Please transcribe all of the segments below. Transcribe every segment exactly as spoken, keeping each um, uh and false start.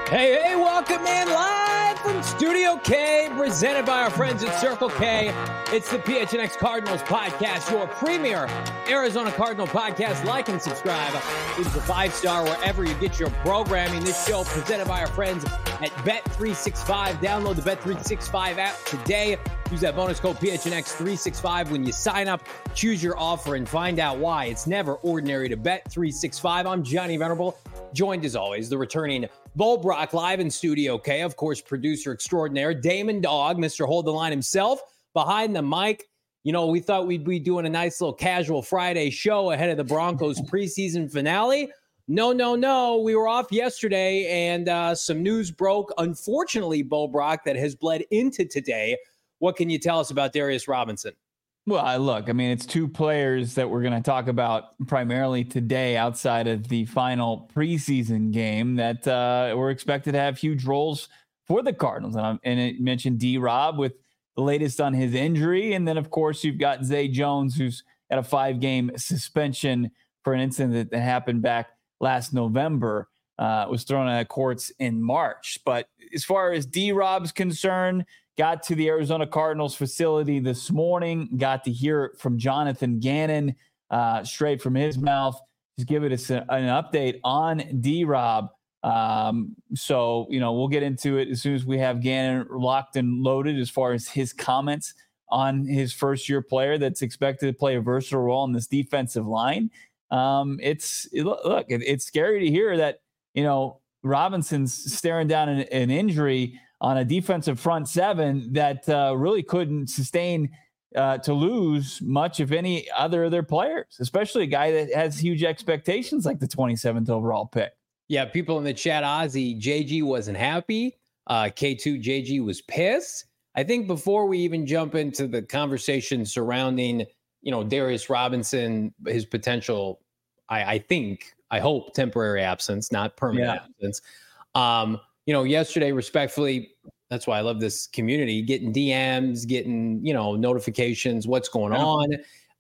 Hey, hey, welcome in live from Studio K, presented by our friends at Circle K. It's the P H N X Cardinals podcast, your premier Arizona Cardinal podcast. Like and subscribe. It's a five-star wherever you get your programming. This show presented by our friends at Bet three sixty-five. Download the Bet three sixty-five app today. Use that bonus code P H N X three sixty-five when you sign up. Choose your offer and find out why. It's never ordinary to Bet three sixty-five. I'm Johnny Venerable, joined as always, the returning Bo Brock live in Studio K. Of course, producer extraordinaire, Damon Dog, Mister Hold the Line himself, behind the mic. You know, we thought we'd be doing a nice little casual Friday show ahead of the Broncos preseason finale. No, no, no. We were off yesterday, and uh, some news broke, unfortunately, Bo Brock, that has bled into today. What can you tell us about Darius Robinson? Well, I look, I mean, it's two players that we're going to talk about primarily today outside of the final preseason game that uh, we're expected to have huge roles for the Cardinals. And, I'm, and it mentioned D-Rob with the latest on his injury. And then, of course, you've got Zay Jones, who's at a five-game suspension for an incident that, that happened back last November. Uh, was thrown out of courts in March. But as far as D-Rob's concerned, got to the Arizona Cardinals facility this morning, got to hear it from Jonathan Gannon uh, straight from his mouth. Just give us a, an update on D-Rob. Um, so, you know, we'll get into it as soon as we have Gannon locked and loaded as far as his comments on his first year player that's expected to play a versatile role in this defensive line. Um, it's it, look, it, it's scary to hear that, you know, Robinson's staring down an, an injury on a defensive front seven that uh, really couldn't sustain uh, to lose much of any other of their players, especially a guy that has huge expectations like the twenty-seventh overall pick. Yeah, people in the chat, Ozzy, J G wasn't happy. Uh, K two J G was pissed. I think before we even jump into the conversation surrounding, you know, Darius Robinson, his potential, I, I think, I hope, temporary absence, not permanent yeah. absence. Um, You know, yesterday, respectfully, that's why I love this community, getting D Ms, getting, you know, notifications, what's going on.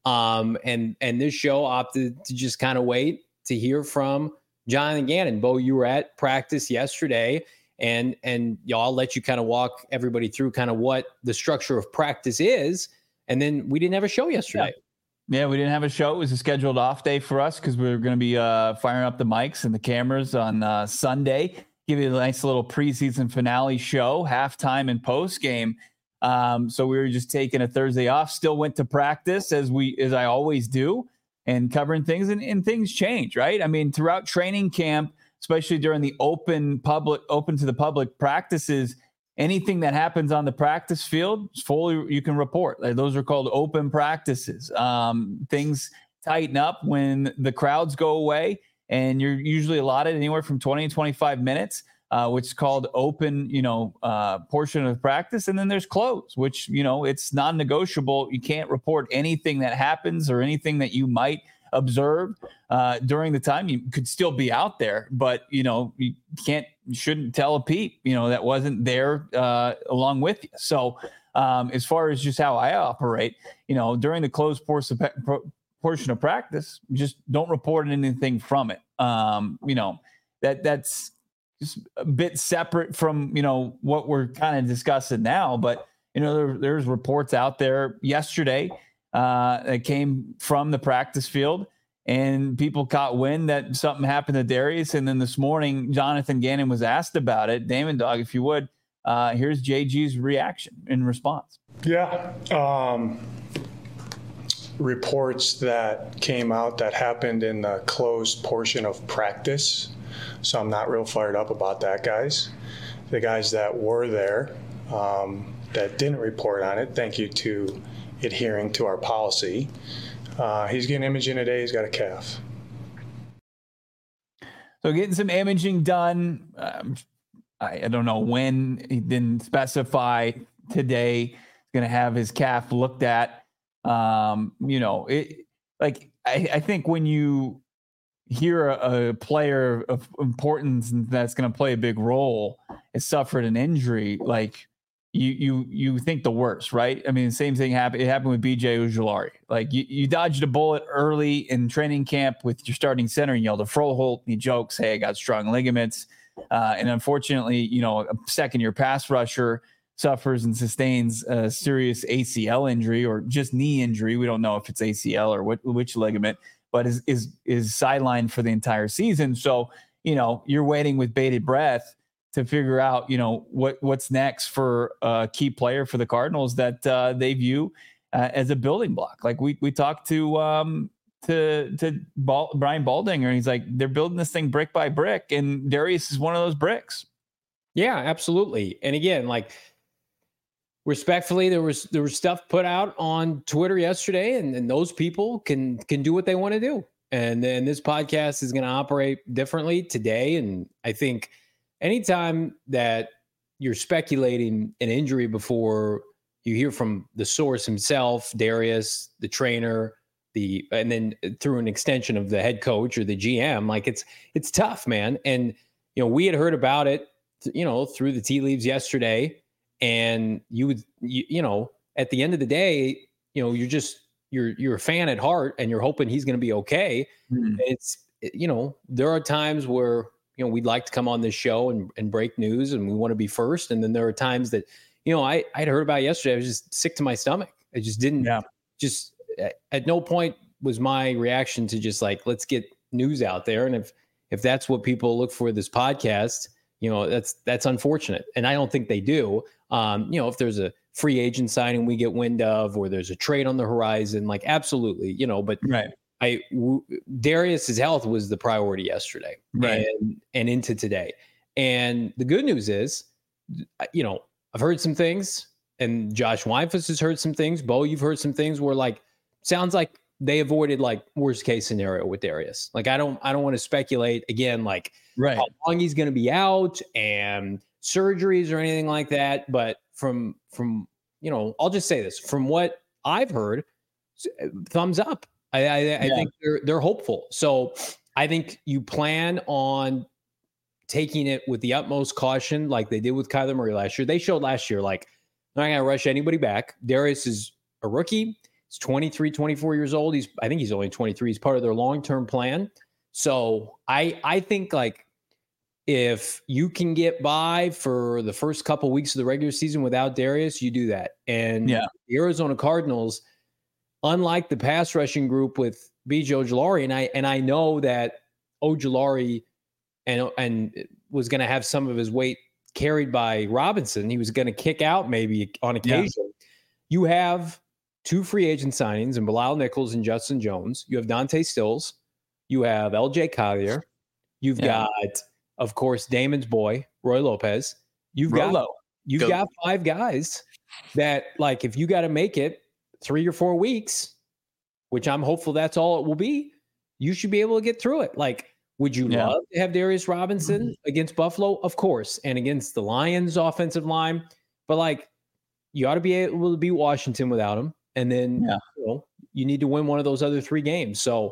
Um, and and this show opted to just kind of wait to hear from Jonathan Gannon. Bo, you were at practice yesterday, and and y'all, I'll let you kind of walk everybody through kind of what the structure of practice is. And then we didn't have a show yesterday. Yeah, yeah we didn't have a show. It was a scheduled off day for us because we were going to be uh, firing up the mics and the cameras on uh, Sunday. Give you a nice little preseason finale show, halftime and post game. Um, so we were just taking a Thursday off. Still went to practice as we as I always do, and covering things. And, and things change, right? I mean, throughout training camp, especially during the open public, open to the public practices, anything that happens on the practice field, fully you can report. Like, those are called open practices. Um, things tighten up when the crowds go away. And you're usually allotted anywhere from twenty to twenty-five minutes, uh, which is called open, you know, uh, portion of practice. And then there's close, which, you know, it's non-negotiable. You can't report anything that happens or anything that you might observe uh, during the time. You could still be out there, but, you know, you can't, you shouldn't tell a peep, you know, that wasn't there uh, along with you. So um, as far as just how I operate, you know, during the closed portion of portion of practice, just don't report anything from it. Um, you know, that that's just a bit separate from, you know, what we're kind of discussing now, but, you know, there, there's reports out there yesterday uh, that came from the practice field, and people caught wind that something happened to Darius. And then this morning, Jonathan Gannon was asked about it. Damon Dog, if you would, uh, here's J G's reaction in response. Yeah. Um, reports that came out that happened in the closed portion of practice. So I'm not real fired up about that, guys. The guys that were there um, that didn't report on it, thank you to adhering to our policy. Uh, he's getting imaging today. He's got a calf. So getting some imaging done. Um, I, I don't know when. He didn't specify today. He's going to have his calf looked at. Um, you know, it like I, I think when you hear a, a player of importance that's going to play a big role has suffered an injury, like you you you think the worst, right? I mean, the same thing happened. It happened with B J Ojulari. Like you, you dodged a bullet early in training camp with your starting center, and you yelled to Froholt, and he jokes, "Hey, I got strong ligaments." Uh, and unfortunately, you know, a second year pass rusher suffers and sustains a serious A C L injury or just knee injury. We don't know if it's A C L or what, which ligament, but is, is, is sidelined for the entire season. So, you know, you're waiting with bated breath to figure out, you know, what, what's next for a key player for the Cardinals that uh, they view uh, as a building block. Like we, we talked to, um, to, to Ball, Brian Baldinger, and he's like, they're building this thing brick by brick, and Darius is one of those bricks. Yeah, absolutely. And again, like, respectfully, there was there was stuff put out on Twitter yesterday, and, and those people can can do what they want to do. And then this podcast is going to operate differently today. And I think anytime that you're speculating an injury before you hear from the source himself, Darius, the trainer, the and then through an extension of the head coach or the G M, like it's it's tough, man. And you know, we had heard about it, you know, through the tea leaves yesterday. And you would, you, you know, at the end of the day, you know, you're just, you're, you're a fan at heart and you're hoping he's going to be okay. Mm. It's, you know, there are times where, you know, we'd like to come on this show and, and break news and we want to be first. And then there are times that, you know, I, I'd heard about yesterday. I was just sick to my stomach. I just didn't, yeah. just at, at no point was my reaction to just like, let's get news out there. And if, if that's what people look for this podcast, you know, that's, that's unfortunate. And I don't think they do. Um, you know, if there's a free agent signing we get wind of, or there's a trade on the horizon, like absolutely, you know, but right. I, w- Darius's health was the priority yesterday, right. and, and into today. And the good news is, you know, I've heard some things, and Josh Weinfuss has heard some things. Bo, you've heard some things where like, sounds like they avoided like worst case scenario with Darius. Like, I don't, I don't want to speculate again, like right. how long he's going to be out and surgeries or anything like that. But from, from, you know, I'll just say this, from what I've heard, thumbs up. I, I, I yeah. think they're, they're hopeful. So I think you plan on taking it with the utmost caution, like they did with Kyler Murray last year. They showed last year, like, I'm not going to rush anybody back. Darius is a rookie. He's twenty-three, twenty-four years old. He's, I think he's only twenty-three. He's part of their long-term plan. So I, I think like, if you can get by for the first couple of weeks of the regular season without Darius, you do that. And yeah. the Arizona Cardinals, unlike the pass rushing group with B J Ojulari, and I and I know that Ojulari and and was going to have some of his weight carried by Robinson. He was going to kick out maybe on occasion. Yeah. You have two free agent signings in Bilal Nichols and Justin Jones. You have Dante Stills. You have L J Collier. You've yeah. got, of course, Damon's boy, Roy Lopez. You've Rolo. got you've Go. got five guys that, like, if you got to make it three or four weeks, which I'm hopeful that's all it will be, you should be able to get through it. Like, would you yeah. love to have Darius Robinson mm-hmm. against Buffalo? Of course. And against the Lions offensive line. But, like, you ought to be able to beat Washington without him. And then yeah. you know, you need to win one of those other three games. So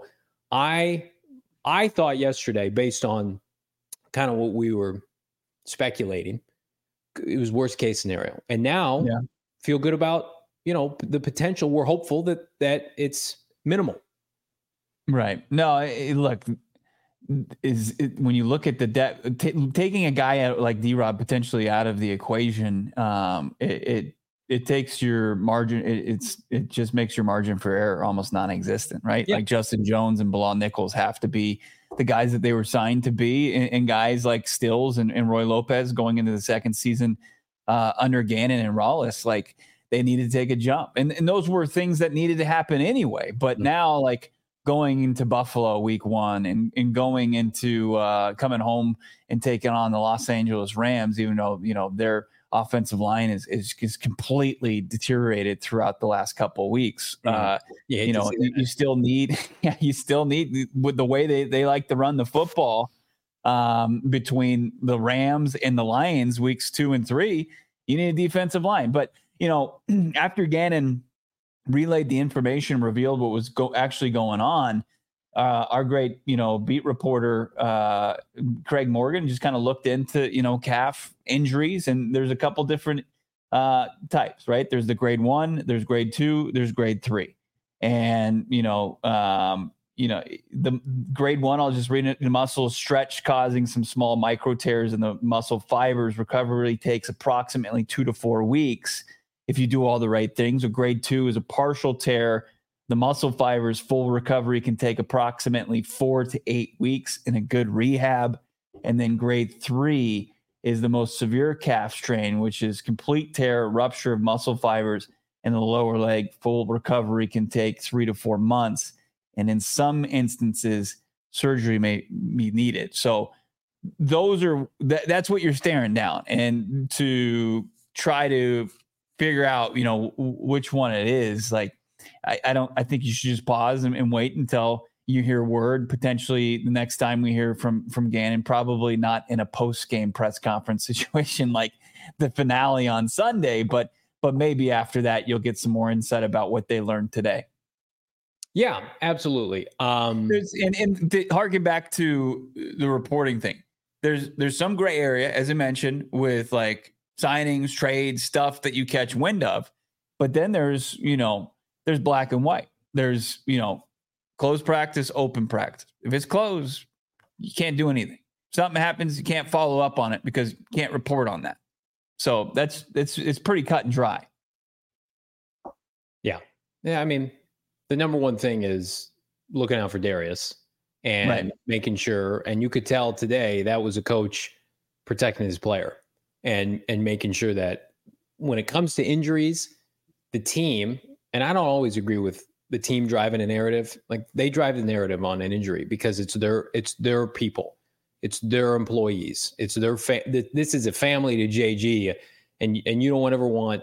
I I thought yesterday, based on kind of what we were speculating, it was worst case scenario. And now yeah. feel good about, you know, the potential. We're hopeful that that it's minimal. Right. No, it, look, is it, when you look at the depth, t- taking a guy out like D-Rob potentially out of the equation, um, it, it it takes your margin. It, it's it just makes your margin for error almost non-existent, right? Yeah. Like Justin Jones and Bilal Nichols have to be the guys that they were signed to be, and, and guys like Stills and, and Roy Lopez going into the second season uh, under Gannon and Rollis, like they needed to take a jump, and and those were things that needed to happen anyway. But mm-hmm. now, like going into Buffalo week one and, and going into uh, coming home and taking on the Los Angeles Rams, even though, you know, their offensive line is, is, is completely deteriorated throughout the last couple of weeks. Mm-hmm. Uh, yeah, you know, you, you still need, yeah, you still need with the way they, they like to run the football um, between the Rams and the Lions weeks two and three, you need a defensive line. But, you know, after Gannon relayed the information, revealed what was go- actually going on, uh, our great, you know, beat reporter, uh, Craig Morgan, just kind of looked into, you know, calf injuries, and there's a couple different uh, types, right? There's the grade one, there's grade two, there's grade three. And, you know, um, you know, the grade one, I'll just read it. The muscle stretch causing some small micro tears in the muscle fibers. Recovery takes approximately two to four weeks if you do all the right things. A grade two is a partial tear. The muscle fibers, full recovery can take approximately four to eight weeks in a good rehab. And then grade three is the most severe calf strain, which is complete tear, rupture of muscle fibers in the lower leg. Full recovery can take three to four months. And in some instances, surgery may be needed. So those are, that, that's what you're staring down. And to try to figure out, you know, which one it is, like, I, I don't, I think you should just pause and, and wait until you hear word, potentially the next time we hear from, from Gannon, probably not in a post-game press conference situation like the finale on Sunday, but, but maybe after that, you'll get some more insight about what they learned today. Yeah, absolutely. Um, there's, and, and to harken back to the reporting thing, there's, there's some gray area, as I mentioned, with like signings, trades, stuff that you catch wind of, but then there's, you know, there's black and white. There's, you know, closed practice, open practice. If it's closed, you can't do anything. Something happens, you can't follow up on it because you can't report on that. So that's, it's, it's pretty cut and dry. Yeah. Yeah. I mean, the number one thing is looking out for Darius and right. making sure, and you could tell today that was a coach protecting his player and, and making sure that when it comes to injuries, the team, and I don't always agree with the team driving a narrative, like they drive the narrative on an injury because it's their, it's their people, it's their employees, it's their, fa- this is a family to J G, and, and you don't ever want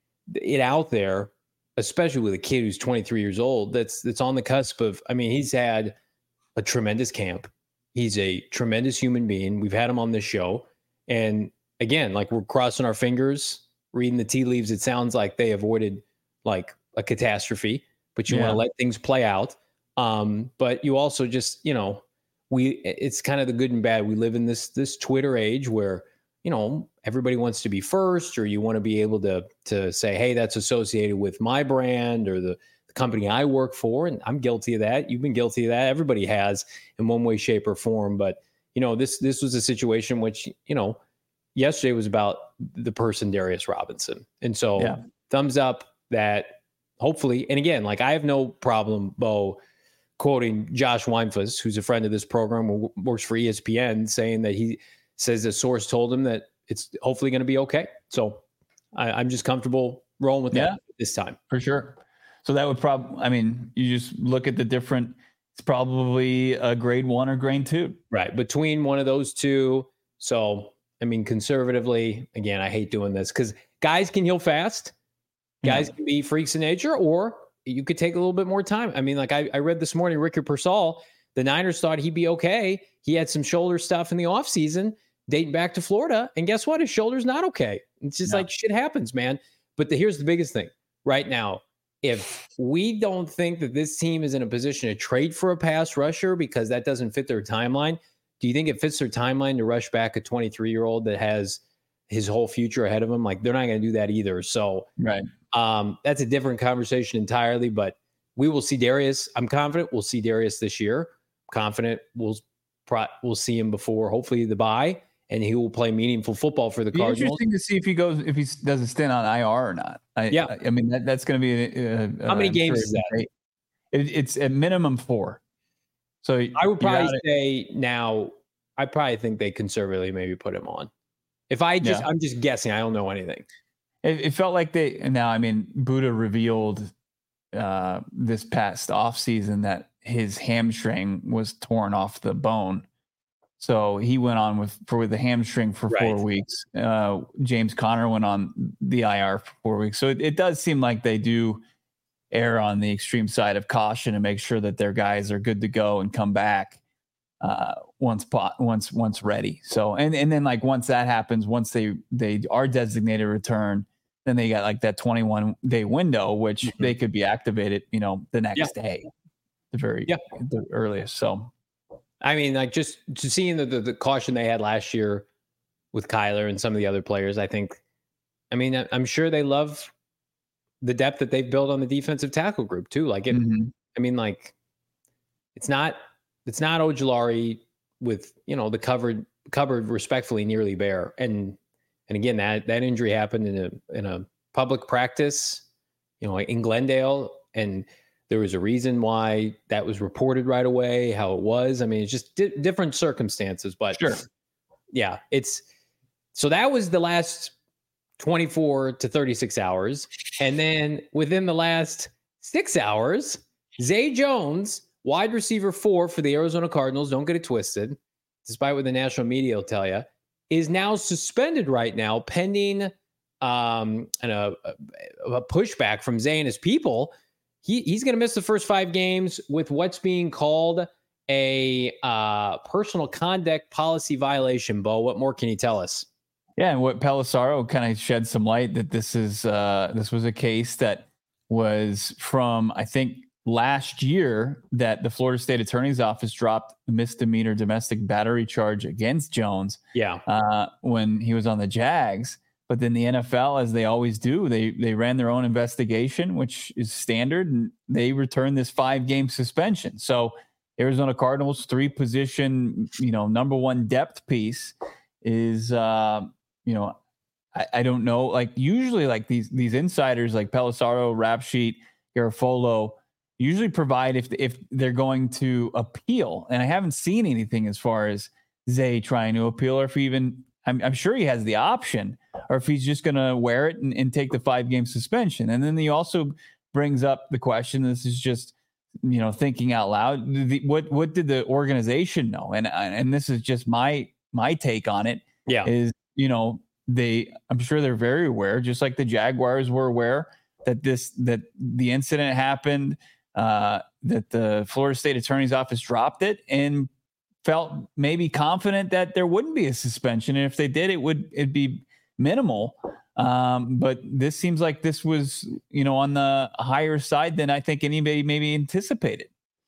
it out there, especially with a kid who's twenty-three years old, that's, that's on the cusp of, I mean, he's had a tremendous camp. He's a tremendous human being. We've had him on this show. And again, like we're crossing our fingers, reading the tea leaves. It sounds like they avoided like a catastrophe, but you yeah. want to let things play out. Um, but you also just, you know, we, it's kind of the good and bad. We live in this, this Twitter age where, you know, everybody wants to be first, or you want to be able to, to say, hey, that's associated with my brand or the, the company I work for. And I'm guilty of that. You've been guilty of that. Everybody has in one way, shape or form. But, you know, this, this was a situation which, you know, yesterday was about the person, Darius Robinson. And so yeah. thumbs up that, hopefully, and again, like I have no problem, Bo, quoting Josh Weinfuss, who's a friend of this program, who works for E S P N, saying that he says the source told him that it's hopefully going to be okay. So I, I'm just comfortable rolling with yeah, that this time. For sure. So that would probably, I mean, you just look at the different, it's probably a grade one or grade two. Right. Between one of those two. So, I mean, conservatively, again, I hate doing this because guys can heal fast. Guys yeah. can be freaks in nature, or you could take a little bit more time. I mean, like I, I read this morning, Ricky Pearsall, the Niners thought he'd be okay. He had some shoulder stuff in the offseason dating back to Florida. And guess what? His shoulder's not okay. It's just no. like shit happens, man. But the, here's the biggest thing right now. If we don't think that this team is in a position to trade for a pass rusher because that doesn't fit their timeline, do you think it fits their timeline to rush back a twenty-three-year-old that has his whole future ahead of him? Like, they're not going to do that either. So right. Um, that's a different conversation entirely, but we will see Darius. I'm confident we'll see Darius this year. Confident we'll pro- we'll see him before hopefully the bye, and he will play meaningful football for the Be Cardinals. Interesting to see if he goes if he does a stint on I R or not. I, yeah, I, I mean that, that's going to be a, a, how many I'm games sure is that? It, it's at minimum four. So I would probably say it. now. I probably think they conservatively maybe put him on. If I just, yeah. I'm just guessing. I don't know anything. It, it felt like they, now, I mean, Buddha revealed uh, this past offseason that his hamstring was torn off the bone. So he went on with, for with the hamstring for right. four weeks. Uh, James Conner went on the I R for four weeks. So it, it does seem like they do err on the extreme side of caution and make sure that their guys are good to go and come back uh, once, once, once ready. So, and, and then like, once that happens, once they, they are designated return, then they got like that twenty-one day window, which mm-hmm. they could be activated, you know, the next yeah. day, the very yeah. the earliest. So, I mean, like just, just seeing the, the, the caution they had last year with Kyler and some of the other players, I think, I mean, I'm sure they love the depth that they've built on the defensive tackle group too. Like it, mm-hmm. I mean, like It's not it's not Ojulari with, you know, the covered covered respectfully nearly bare. And and again, that that injury happened in a in a public practice, you know, in Glendale, and there was a reason why that was reported right away, how it was. I mean, it's just di- different circumstances, but Sure. Yeah, it's so that was the last twenty-four to thirty-six hours. And then within the last six hours, Zay Jones, wide receiver four for the Arizona Cardinals, don't get it twisted, despite what the national media will tell you, is now suspended right now, pending um, and a, a pushback from Zay and his people. He, he's going to miss the first five games with what's being called a uh, personal conduct policy violation. Bo, what more can you tell us? Yeah, and what Pelissaro kind of shed some light that this is uh, this was a case that was from, I think, last year, that the Florida State Attorney's Office dropped a misdemeanor domestic battery charge against Jones. Yeah, uh, when he was on the Jags. But then the N F L, as they always do, they they ran their own investigation, which is standard, and they returned this five game suspension. So Arizona Cardinals three position, you know, number one depth piece is, uh, you know, I, I don't know, like usually like these these insiders like Pelissaro, Rap Sheet, Garofolo usually provide if if they're going to appeal, and I haven't seen anything as far as Zay trying to appeal, or if even I'm, I'm sure he has the option, or if he's just going to wear it and, and take the five game suspension. And then he also brings up the question. This is just, you know, thinking out loud. The, what what did the organization know? And and this is just my my take on it. Yeah, is, you know, they I'm sure they're very aware, just like the Jaguars were aware that this that the incident happened, uh, that the Florida State Attorney's Office dropped it, and felt maybe confident that there wouldn't be a suspension, and if they did, it would it'd be minimal. Um, but this seems like this was, you know, on the higher side than I think anybody maybe anticipated.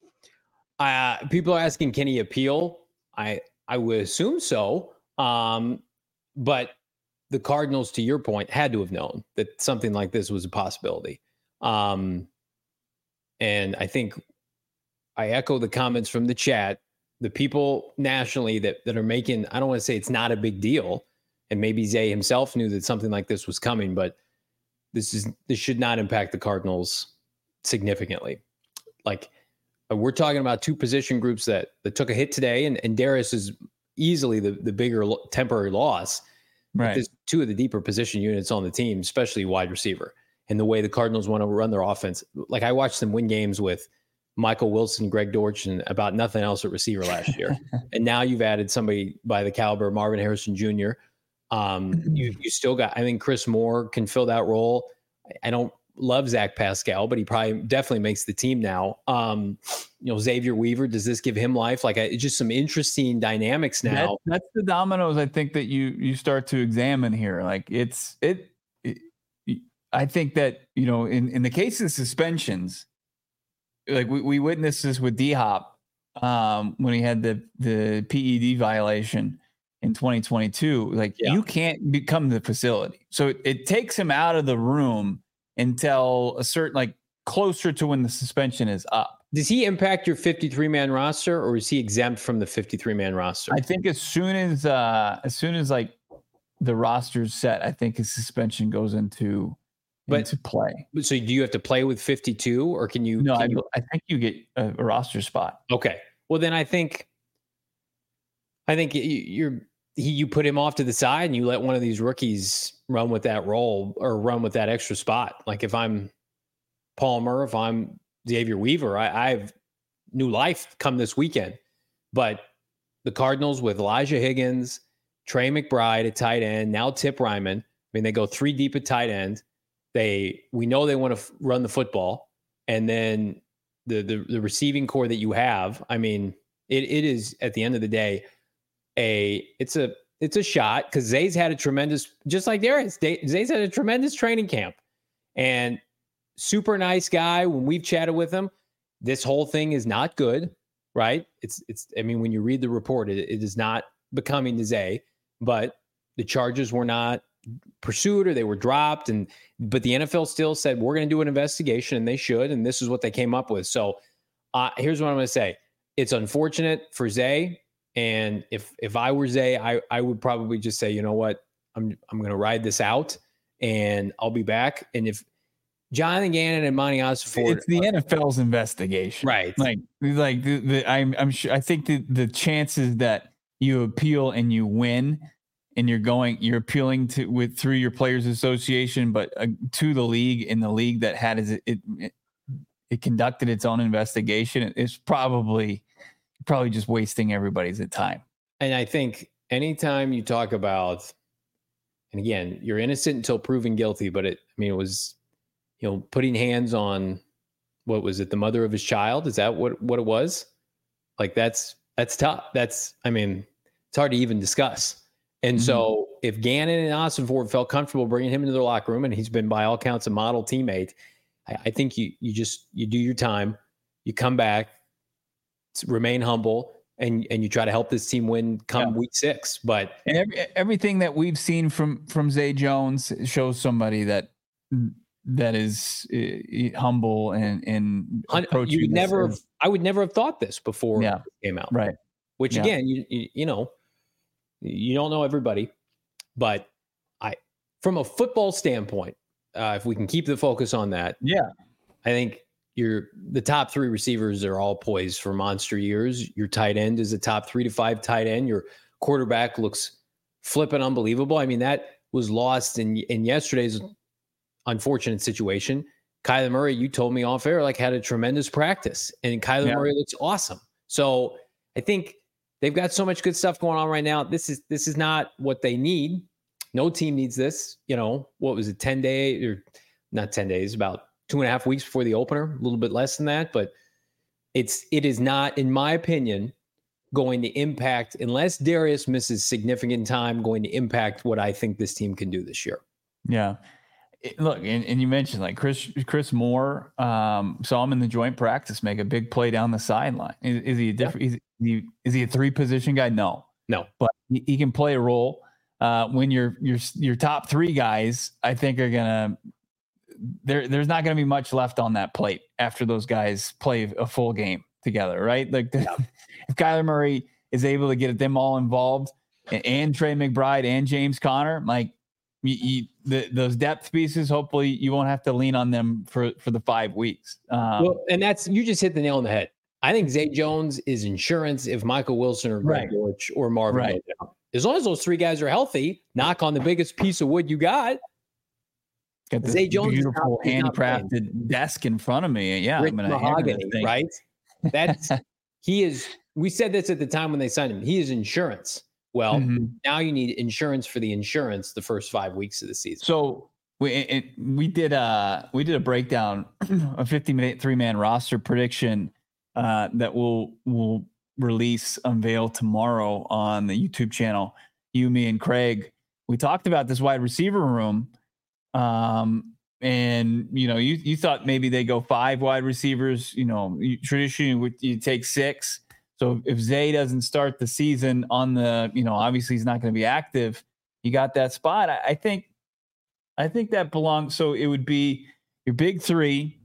Uh, people are asking, can he appeal? I I would assume so. Um, but the Cardinals, to your point, had to have known that something like this was a possibility. Um, and I think I echo the comments from the chat. The people nationally that, that are making, I don't want to say it's not a big deal, and maybe Zay himself knew that something like this was coming, but this is this should not impact the Cardinals significantly. Like, we're talking about two position groups that that took a hit today, and, and Darius is easily the, the bigger lo- temporary loss. Right. There's two of the deeper position units on the team, especially wide receiver, and the way the Cardinals want to run their offense. Like, I watched them win games with Michael Wilson, Greg Dortch, and about nothing else at receiver last year. And now you've added somebody by the caliber of Marvin Harrison Junior Um, you you still got, I think Chris Moore can fill that role. I don't love Zach Pascal, but he probably definitely makes the team now. Um, you know, Xavier Weaver, does this give him life? Like, it's just some interesting dynamics now. That, that's the dominoes I think that you you start to examine here. Like it's it, it I think that, you know, in, in the case of suspensions, like we, we witnessed this with D-Hop um, when he had the, the P E D violation in twenty twenty-two. Like yeah. You can't become the facility. So it, it takes him out of the room until a certain, like closer to when the suspension is up. Does he impact your fifty-three man roster, or is he exempt from the fifty-three man roster? I think as soon as, uh, as soon as like the roster's set, I think his suspension goes into, But, into play. So do you have to play with fifty-two, or can you? No, can I, you... I think you get a, a roster spot. Okay. Well, then I think, I think you're, he, you put him off to the side and you let one of these rookies run with that role or run with that extra spot. Like if I'm Palmer, if I'm Xavier Weaver, I, I have new life come this weekend. But the Cardinals with Elijah Higgins, Trey McBride at tight end, now Tip Ryman. I mean, they go three deep at tight end. They, we know they want to f- run the football, and then the, the the receiving core that you have. I mean, it it is at the end of the day, a it's a it's a shot because Zay's had a tremendous, just like Darius, Zay's had a tremendous training camp, and super nice guy. When we've chatted with him, this whole thing is not good, right? It's it's. I mean, when you read the report, it, it is not becoming to Zay, but the charges were not pursued or they were dropped, and but the N F L still said we're going to do an investigation, and they should, and this is what they came up with. So uh here's what I'm going to say. it's unfortunate for Zay. And if if I were Zay, I, I would probably just say, you know what, I'm I'm going to ride this out, and I'll be back. And if Jonathan Gannon and Monty Ossenfort, it's the N F L's investigation, right? Like like the, the I'm I'm sure I think the the chances that you appeal and you win, and you're going you're appealing to with through your players association, but uh, to the league in the league that had it it, it conducted its own investigation, it's probably. Probably just wasting everybody's time. And I think anytime you talk about, and again, you're innocent until proven guilty, but it, I mean, it was, you know, putting hands on, what was it, the mother of his child? Is that what, what it was? Like, that's, that's tough. That's, I mean, it's hard to even discuss. And mm-hmm. so if Gannon and Ossenfort felt comfortable bringing him into their locker room, and he's been by all counts a model teammate, I, I think you, you just, you do your time, you come back, remain humble, and and you try to help this team win come yeah. week six. But and every, everything that we've seen from from Zay Jones shows somebody that that is uh, humble and and you would never have, I would never have thought this before yeah. it came out, right? Which yeah. again, you, you you know, you don't know everybody, but I, from a football standpoint, uh, if we can keep the focus on that, yeah, I think. Your the top three receivers are all poised for monster years. Your tight end is a top three to five tight end. Your quarterback looks flipping unbelievable. I mean, that was lost in in yesterday's unfortunate situation. Kyler Murray, you told me off air, like had a tremendous practice, and Kyler yeah. Murray looks awesome. So I think they've got so much good stuff going on right now. This is this is not what they need. No team needs this. You know, what was it, ten days or not ten days, about two and a half weeks before the opener, a little bit less than that, but it's, it is not, in my opinion, going to impact, unless Darius misses significant time, going to impact what I think this team can do this year. Yeah. It, look, and, and you mentioned like Chris, Chris Moore, um, saw him in the joint practice, make a big play down the sideline. Is, is he a different, yeah. is, he, is he a three position guy? No, no, but he, he can play a role. Uh, when your, your, your top three guys, I think are going to, There, there's not going to be much left on that plate after those guys play a full game together, right? Like the, yeah. if Kyler Murray is able to get them all involved, and, and Trey McBride and James Conner, like you, you, the, those depth pieces, hopefully you won't have to lean on them for, for the five weeks. Um, well, and that's, you just hit the nail on the head. I think Zay Jones is insurance if Michael Wilson or Greg right. Dortch or Marvin right. go down. As long as those three guys are healthy, knock on the biggest piece of wood you got. Got this Zay Jones beautiful handcrafted desk in front of me. Yeah, I'm gonna mahogany, right? That's he is. We said this at the time when they signed him. He is insurance. Well, mm-hmm. now you need insurance for the insurance the first five weeks of the season. So we it, we did a we did a breakdown, a fifty minute three man roster prediction uh, that we'll we'll release unveil tomorrow on the YouTube channel. You, me, and Craig. We talked about this wide receiver room. Um, and you know, you, you thought maybe they go five wide receivers, you know, you, traditionally would you take six. So if Zay doesn't start the season on the, you know, obviously he's not going to be active. You got that spot. I, I think, I think that belongs. So it would be your big three.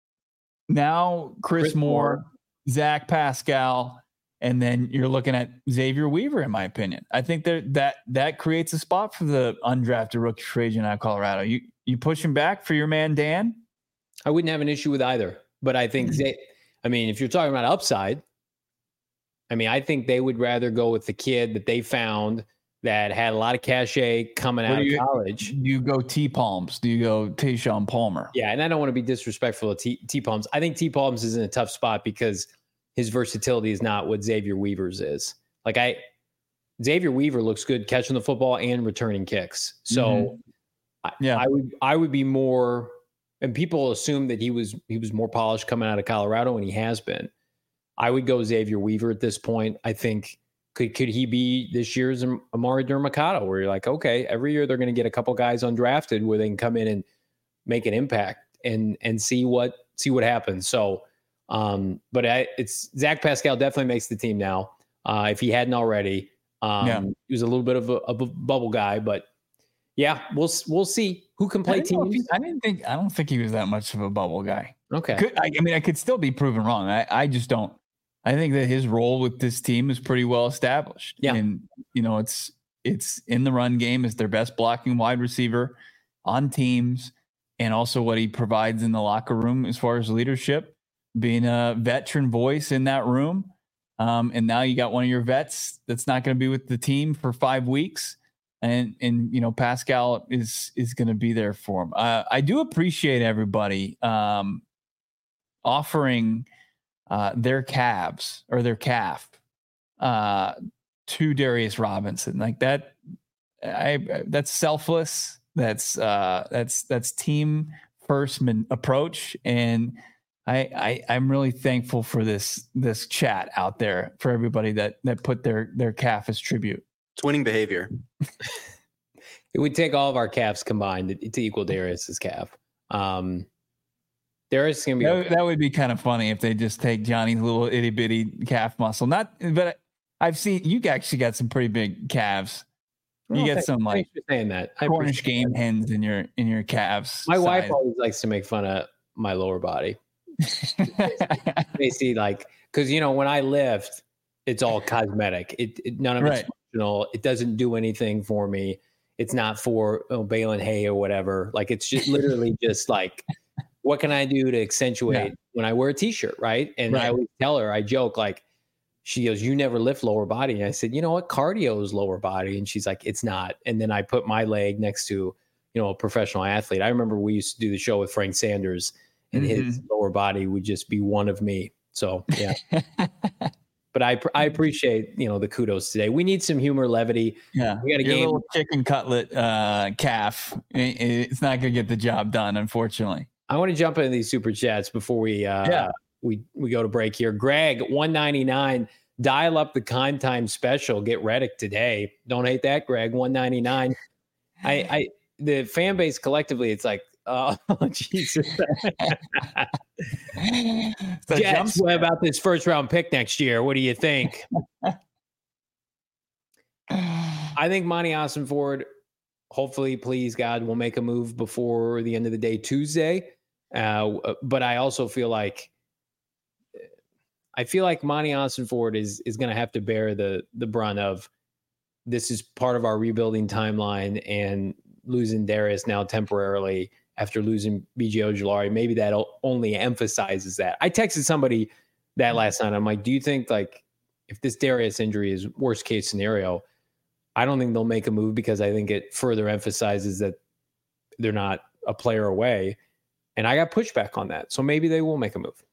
Now, Chris, Chris Moore, Moore, Zach Pascal, and then you're looking at Xavier Weaver, in my opinion. I think that that that creates a spot for the undrafted rookie free agent out of Colorado. You you push him back for your man Dan? I wouldn't have an issue with either. But I think, mm-hmm. they, I mean, if you're talking about upside, I mean, I think they would rather go with the kid that they found that had a lot of cachet coming out you, of college. Do you go T-Palms? Do you go Tayshaun Palmer? Yeah, and I don't want to be disrespectful to T- T-Palms. I think T-Palms is in a tough spot because his versatility is not what Xavier Weaver's is. Like I, Xavier Weaver looks good catching the football and returning kicks. So mm-hmm. yeah, I, I would I would be more, and people assume that he was he was more polished coming out of Colorado, and he has been. I would go Xavier Weaver at this point. I think could could he be this year's Amari Dermacado, where you're like, okay, every year they're going to get a couple guys undrafted where they can come in and make an impact and and see what see what happens. So. Um, but I, it's Zach Pascal definitely makes the team now. Uh, if he hadn't already, um, yeah. he was a little bit of a, of a bubble guy, but yeah, we'll we'll see who can play I teams. He, I didn't think I don't think he was that much of a bubble guy. Okay, could, I, I mean, I could still be proven wrong. I, I just don't. I think that his role with this team is pretty well established. Yeah. And, you know, it's, it's in the run game as their best blocking wide receiver on teams, and also what he provides in the locker room as far as leadership, being a veteran voice in that room. Um, and now you got one of your vets that's not going to be with the team for five weeks. And, and, you know, Pascal is, is going to be there for him. Uh, I do appreciate everybody um, offering uh, their calves or their calf uh, to Darius Robinson. Like that, I, that's selfless. That's, uh, that's, that's team first man approach. And I, I, I'm really thankful for this, this chat out there for everybody that, that put their, their calf as tribute. It's winning behavior. It would take all of our calves combined to, to equal Darius's calf. Um, Darius is gonna be that, okay. that would be kind of funny if they just take Johnny's little itty bitty calf muscle. Not, but I've seen you actually got some pretty big calves. You Oh, get thanks, some like thanks for saying that. I Cornish appreciate game that. hens in your in your calves. My wife size. always likes to make fun of my lower body. They see like, because you know when I lift, it's all cosmetic. It, it none of Right. it's functional. It doesn't do anything for me. It's not for oh, baling hay or whatever. Like it's just literally just like, what can I do to accentuate Yeah. when I wear a t-shirt, right? And Right. I always tell her, I joke like, she goes, "You never lift lower body." And I said, "You know what? Cardio is lower body." And she's like, "It's not." And then I put my leg next to, you know, a professional athlete. I remember we used to do the show with Frank Sanders, and his lower body would just be one of me. So yeah. But I I appreciate, you know, the kudos today. We need some humor, levity. Yeah, We got a your game. little chicken cutlet uh, calf. it- it's not going to get the job done, unfortunately. I want to jump into these super chats before we uh Yeah. we we go to break here. Greg, one ninety-nine, dial up the Kime Time special. Get Reddick today. Don't hate that, Greg. one ninety-nine. I I the fan base collectively, it's like, oh Jesus. It's that jump Jets, what about this first round pick next year? What do you think? I think Monty Ossenford, hopefully, please God, will make a move before the end of the day Tuesday. Uh, but I also feel like I feel like Monty Ossenford is is going to have to bear the the brunt of this is part of our rebuilding timeline, and losing Darius now temporarily after losing B J Ojulari, maybe that only emphasizes that. I texted somebody that last night. I'm like, do you think like if this Darius injury is worst case scenario, I don't think they'll make a move because I think it further emphasizes that they're not a player away. And I got pushback on that. So maybe they will make a move.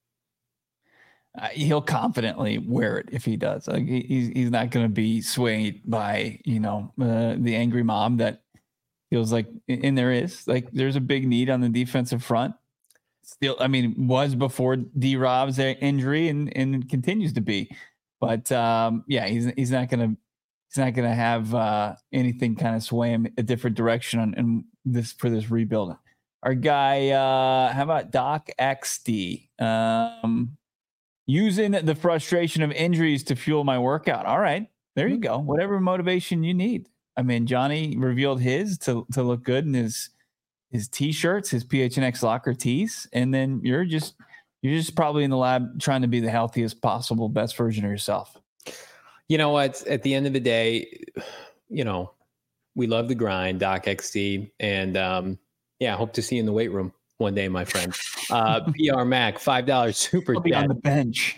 Uh, he'll confidently wear it if he does. Like he, he's he's not going to be swayed by, you know, uh, the angry mom that feels like, and there is like there's a big need on the defensive front. Still, I mean, was before D Rob's injury and and continues to be, but um, yeah, he's he's not going to he's not going to have uh, anything kind of sway him a different direction on in this for this rebuilding. Our guy, uh, how about Doc X D? Um, using the frustration of injuries to fuel my workout. All right, there you go. Whatever motivation you need. I mean, Johnny revealed his to to look good in his his t-shirts, his P H N X locker tees, and then you're just you're just probably in the lab trying to be the healthiest possible, best version of yourself. You know what? At the end of the day, you know, we love the grind, Doc X D, and um, yeah, I hope to see you in the weight room one day, my friend. Uh, P R Mac, five dollars super I'll be chat. on the bench.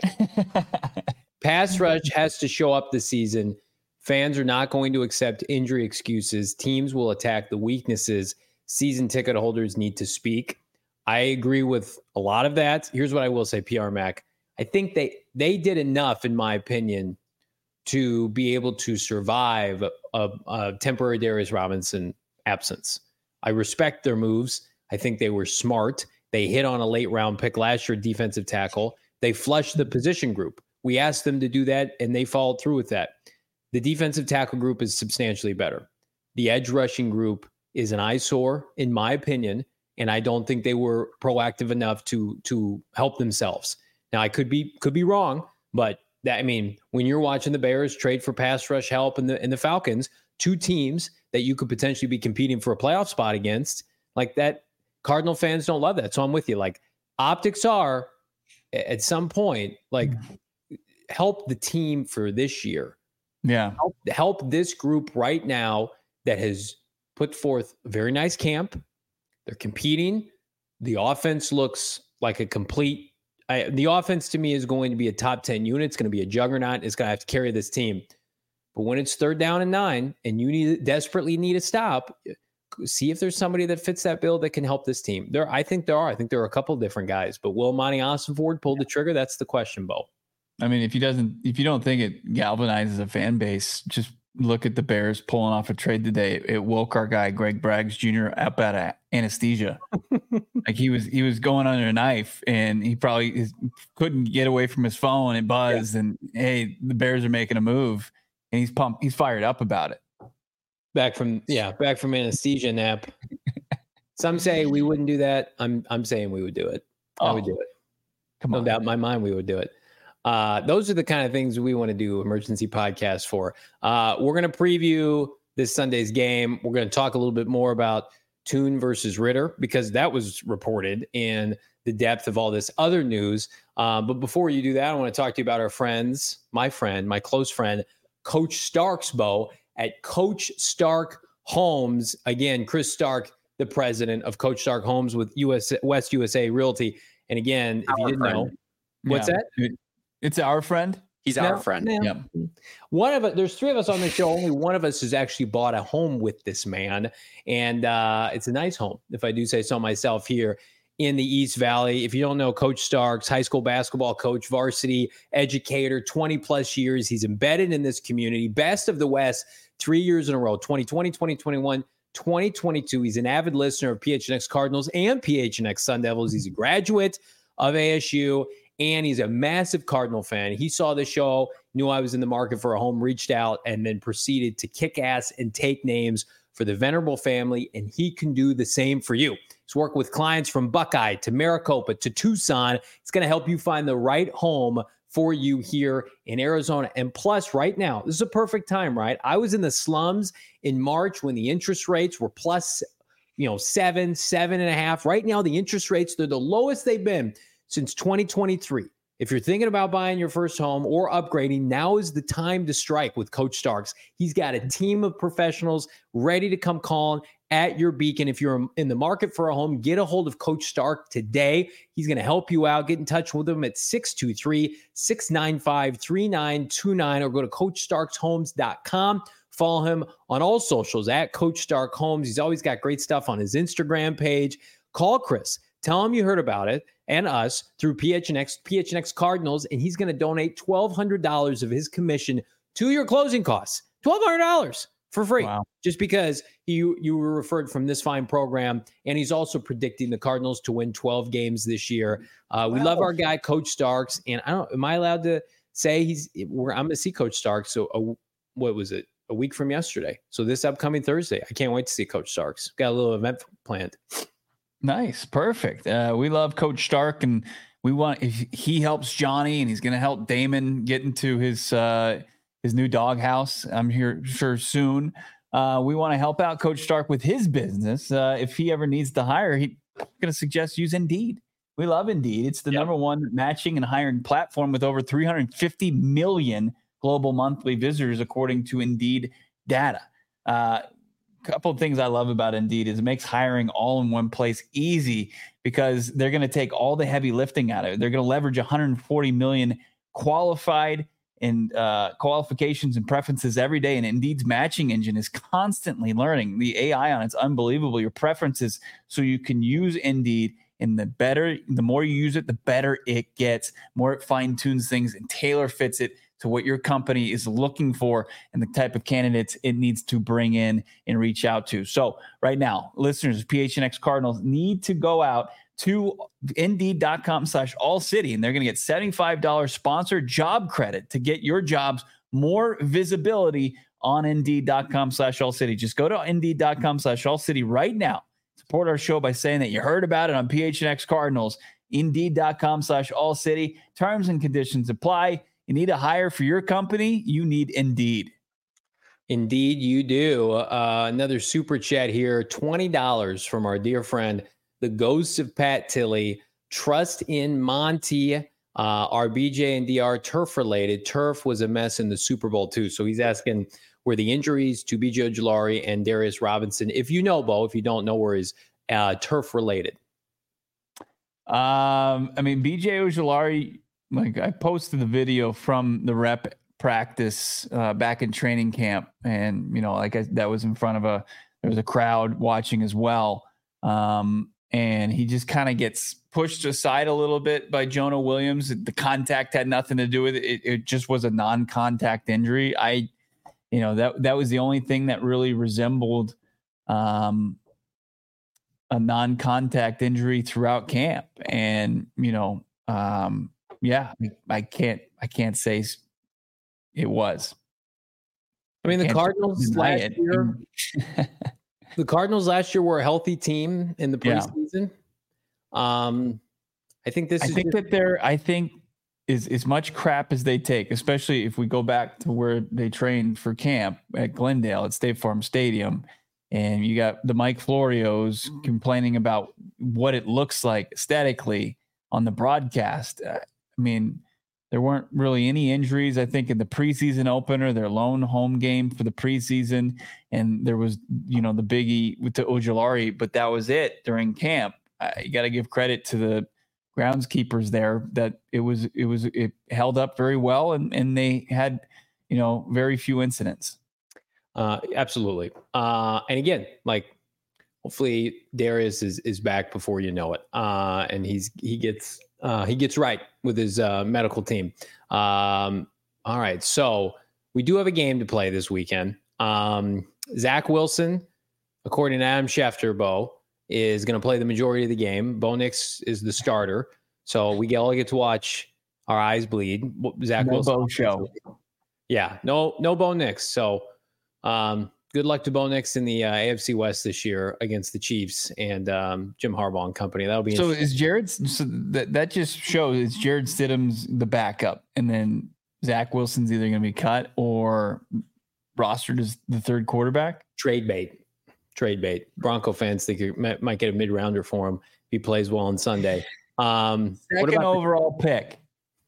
Pass rush has to show up this season. Fans are not going to accept injury excuses. Teams will attack the weaknesses. Season ticket holders need to speak. I agree with a lot of that. Here's what I will say, P R Mac. I think they they did enough, in my opinion, to be able to survive a, a temporary Darius Robinson absence. I respect their moves. I think they were smart. They hit on a late round pick last year, defensive tackle. They flushed the position group. We asked them to do that, and they followed through with that. The defensive tackle group is substantially better. The edge rushing group is an eyesore, in my opinion, and I don't think they were proactive enough to to help themselves. Now, I could be could be wrong, but that I mean, when you're watching the Bears trade for pass rush help and the and the Falcons, two teams that you could potentially be competing for a playoff spot against, like that, Cardinal fans don't love that. So I'm with you. Like optics are at some point, like help the team for this year. Yeah. Help, help this group right now that has put forth a very nice camp. They're competing. The offense looks like a complete I, the offense to me is going to be a top ten unit. It's going to be a juggernaut. It's going to have to carry this team. But when it's third down and nine and you need desperately need a stop, see if there's somebody that fits that bill that can help this team. There, I think there are. I think there are a couple of different guys. But will Monty Ossenford pull the trigger? That's the question, Bo. I mean, if he doesn't, if you don't think it galvanizes a fan base, just look at the Bears pulling off a trade today. It woke our guy Greg Braggs Junior up out of anesthesia. Like he was, he was going under a knife, and he probably is, couldn't get away from his phone. It buzzed, yeah. and hey, the Bears are making a move, and he's pumped. He's fired up about it. Back from yeah, back from anesthesia nap. Some say we wouldn't do that. I'm I'm saying we would do it. Oh, I would do it. Come on, no doubt in my mind we would do it. Uh, those are the kind of things we want to do emergency podcasts for. Uh, we're going to preview this Sunday's game. We're going to talk a little bit more about Tune versus Ritter, because that was reported in the depth of all this other news. Uh, but before you do that, I want to talk to you about our friends, my friend, my close friend, Coach Starks, Bo, at Coach Stark Homes. Again, Chris Stark, the president of Coach Stark Homes with U S West U S A Realty. And again, if our you didn't friend. know, what's yeah. that? It's our friend. He's now, our friend. now, Yeah. One of us, there's three of us on the show. Only one of us has actually bought a home with this man. And uh, it's a nice home, if I do say so myself, here in the East Valley. If you don't know Coach Starks, high school basketball coach, varsity educator, twenty plus years. He's embedded in this community. Best of the West, three years in a row, twenty twenty, twenty twenty-one, twenty twenty-two. He's an avid listener of P H N X Cardinals and P H N X Sun Devils. He's a graduate of A S U, and he's a massive Cardinal fan. He saw the show, knew I was in the market for a home, reached out, and then proceeded to kick ass and take names for the Venerable family, and he can do the same for you. He's worked with clients from Buckeye to Maricopa to Tucson. It's going to help you find the right home for you here in Arizona. And plus, right now, this is a perfect time, right? I was in the slums in March when the interest rates were plus, you know, seven, seven and a half. Right now, the interest rates, they're the lowest they've been since twenty twenty-three. If you're thinking about buying your first home or upgrading, now is the time to strike with Coach Starks. He's got a team of professionals ready to come calling at your beacon. If you're in the market for a home, get a hold of Coach Stark today. He's going to help you out. Get in touch with him at six two three, six nine five, three nine two nine or go to coach starks homes dot com. Follow him on all socials at Coach Stark Homes. He's always got great stuff on his Instagram page. Call Chris. Tell him you heard about it and us through P H N X, P H N X Cardinals, and he's going to donate twelve hundred dollars of his commission to your closing costs. twelve hundred dollars for free. Wow. Just because you, you were referred from this fine program, and he's also predicting the Cardinals to win twelve games this year. Uh, we wow. love our guy, Coach Starks, and I don't, am I allowed to say he's, we're, I'm going to see Coach Starks. So a, what was it? A week from yesterday. So this upcoming Thursday, I can't wait to see Coach Starks. Got a little event planned. Nice. Perfect. Uh, we love Coach Stark, and we want, if he helps Johnny, and he's going to help Damon get into his, uh, his new doghouse. I'm here sure soon. Uh, we want to help out Coach Stark with his business. Uh, if he ever needs to hire, he's going to suggest use Indeed. We love Indeed. It's the yep. number one matching and hiring platform with over three hundred fifty million global monthly visitors, according to Indeed data. Uh, couple of things I love about Indeed is it makes hiring all in one place easy, because they're going to take all the heavy lifting out of it. They're going to leverage one hundred forty million qualified and uh, qualifications and preferences every day. And Indeed's matching engine is constantly learning. The A I on it's unbelievable. Your preferences, so you can use Indeed, and the better, the more you use it, the better it gets. More it fine tunes things and tailor fits it to what your company is looking for and the type of candidates it needs to bring in and reach out to. So right now, listeners of P H N X Cardinals need to go out to indeed.com slash all city, and they're going to get seventy-five dollars sponsored job credit to get your jobs more visibility on indeed.com slash all city. Just go to indeed.com slash all city right now. Support our show by saying that you heard about it on P H N X Cardinals. Indeed.com slash all city. Terms and conditions apply. You need a hire for your company? You need Indeed. Indeed, you do. Uh, another super chat here. twenty dollars from our dear friend, the Ghost of Pat Tilley. Trust in Monty. Uh, are B J and D R turf related? Turf was a mess in the Super Bowl too. So he's asking, were the injuries to B J Ojulari and Darius Robinson, if you know, Bo, if you don't know, where is uh, turf related? Um, I mean, B J Ojulari, like I posted the video from the rep practice uh, back in training camp, and you know, like I, that was in front of a there was a crowd watching as well, um, and he just kind of gets pushed aside a little bit by Jonah Williams. The contact had nothing to do with it; it, it just was a non-contact injury. I, you know, that that was the only thing that really resembled um, a non-contact injury throughout camp, and you know, um, yeah, I can't I can't say it was. I mean, the Cardinals last it. year, the Cardinals last year were a healthy team in the preseason. Yeah. Um, I think this. I is think just- that they're. I think is as much crap as they take, especially if we go back to where they trained for camp at Glendale at State Farm Stadium, and you got the Mike Florios complaining about what it looks like aesthetically on the broadcast. Uh, I mean, there weren't really any injuries, I think, in the preseason opener, their lone home game for the preseason. And there was, you know, the biggie with the Ojulari, but that was it during camp. Uh, you got to give credit to the groundskeepers there that it was, it was, it held up very well. And, and they had, you know, very few incidents. Uh, absolutely. Uh, and again, like, hopefully Darius is, is back before you know it. Uh, and he's, he gets, uh, he gets right with his uh, medical team. Um, all right. So we do have a game to play this weekend. Um, Zach Wilson, according to Adam Schefter, Bo, is going to play the majority of the game. Bo Nix is the starter. So we all get to watch our eyes bleed. Zach no Wilson. Bo show. Yeah. No, no Bo Nix. So, um, good luck to Bo Nix in the uh, A F C West this year against the Chiefs and um, Jim Harbaugh and company. That'll be so. Is Jared? So that that just shows it's Jared Stidham's the backup, and then Zach Wilson's either going to be cut or rostered as the third quarterback. Trade bait. Trade bait. Bronco fans think you might, might get a mid rounder for him if he plays well on Sunday. Um, Second what about overall the- pick.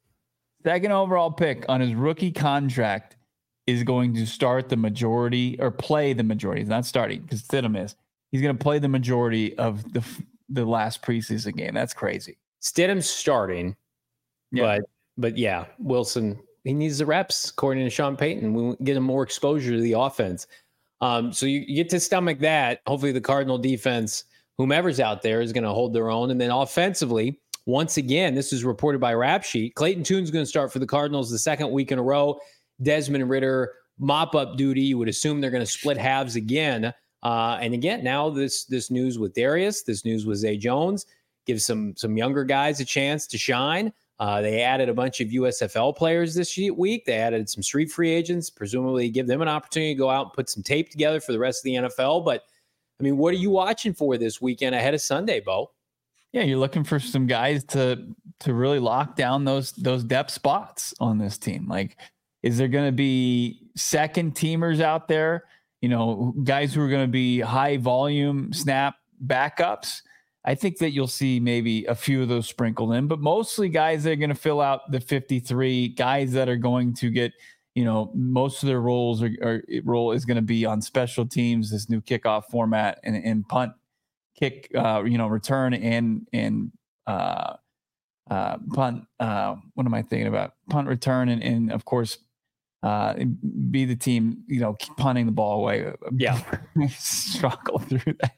Second overall pick on his rookie contract is going to start the majority or play the majority. He's not starting because Stidham is. He's going to play the majority of the the last preseason game. That's crazy. Stidham's starting, Yeah. but but yeah, Wilson, he needs the reps. According to Sean Payton, we get him more exposure to the offense. Um, so you, you get to stomach that. Hopefully, the Cardinal defense, whomever's out there, is going to hold their own. And then offensively, once again, this is reported by Rap Sheet. Clayton Tune's going to start for the Cardinals the second week in a row. Desmond Ridder, mop-up duty. You would assume they're going to split halves again. Uh, and again, now this this news with Darius, this news with Zay Jones, gives some some younger guys a chance to shine. Uh, they added a bunch of U S F L players this week. They added some street free agents, presumably give them an opportunity to go out and put some tape together for the rest of the N F L. But, I mean, what are you watching for this weekend ahead of Sunday, Bo? Yeah, you're looking for some guys to to really lock down those those depth spots on this team. Like, is there going to be second teamers out there, you know, guys who are going to be high volume snap backups? I think that you'll see maybe a few of those sprinkled in, but mostly guys that are going to fill out the fifty-three, guys that are going to get, you know, most of their roles are, are role is going to be on special teams, this new kickoff format, and, and punt, kick, uh, you know, return and, and, uh, uh, punt. Uh, what am I thinking about? Punt, return, and, and of course, uh, be the team, you know, punting the ball away. Yeah. Struggle through that.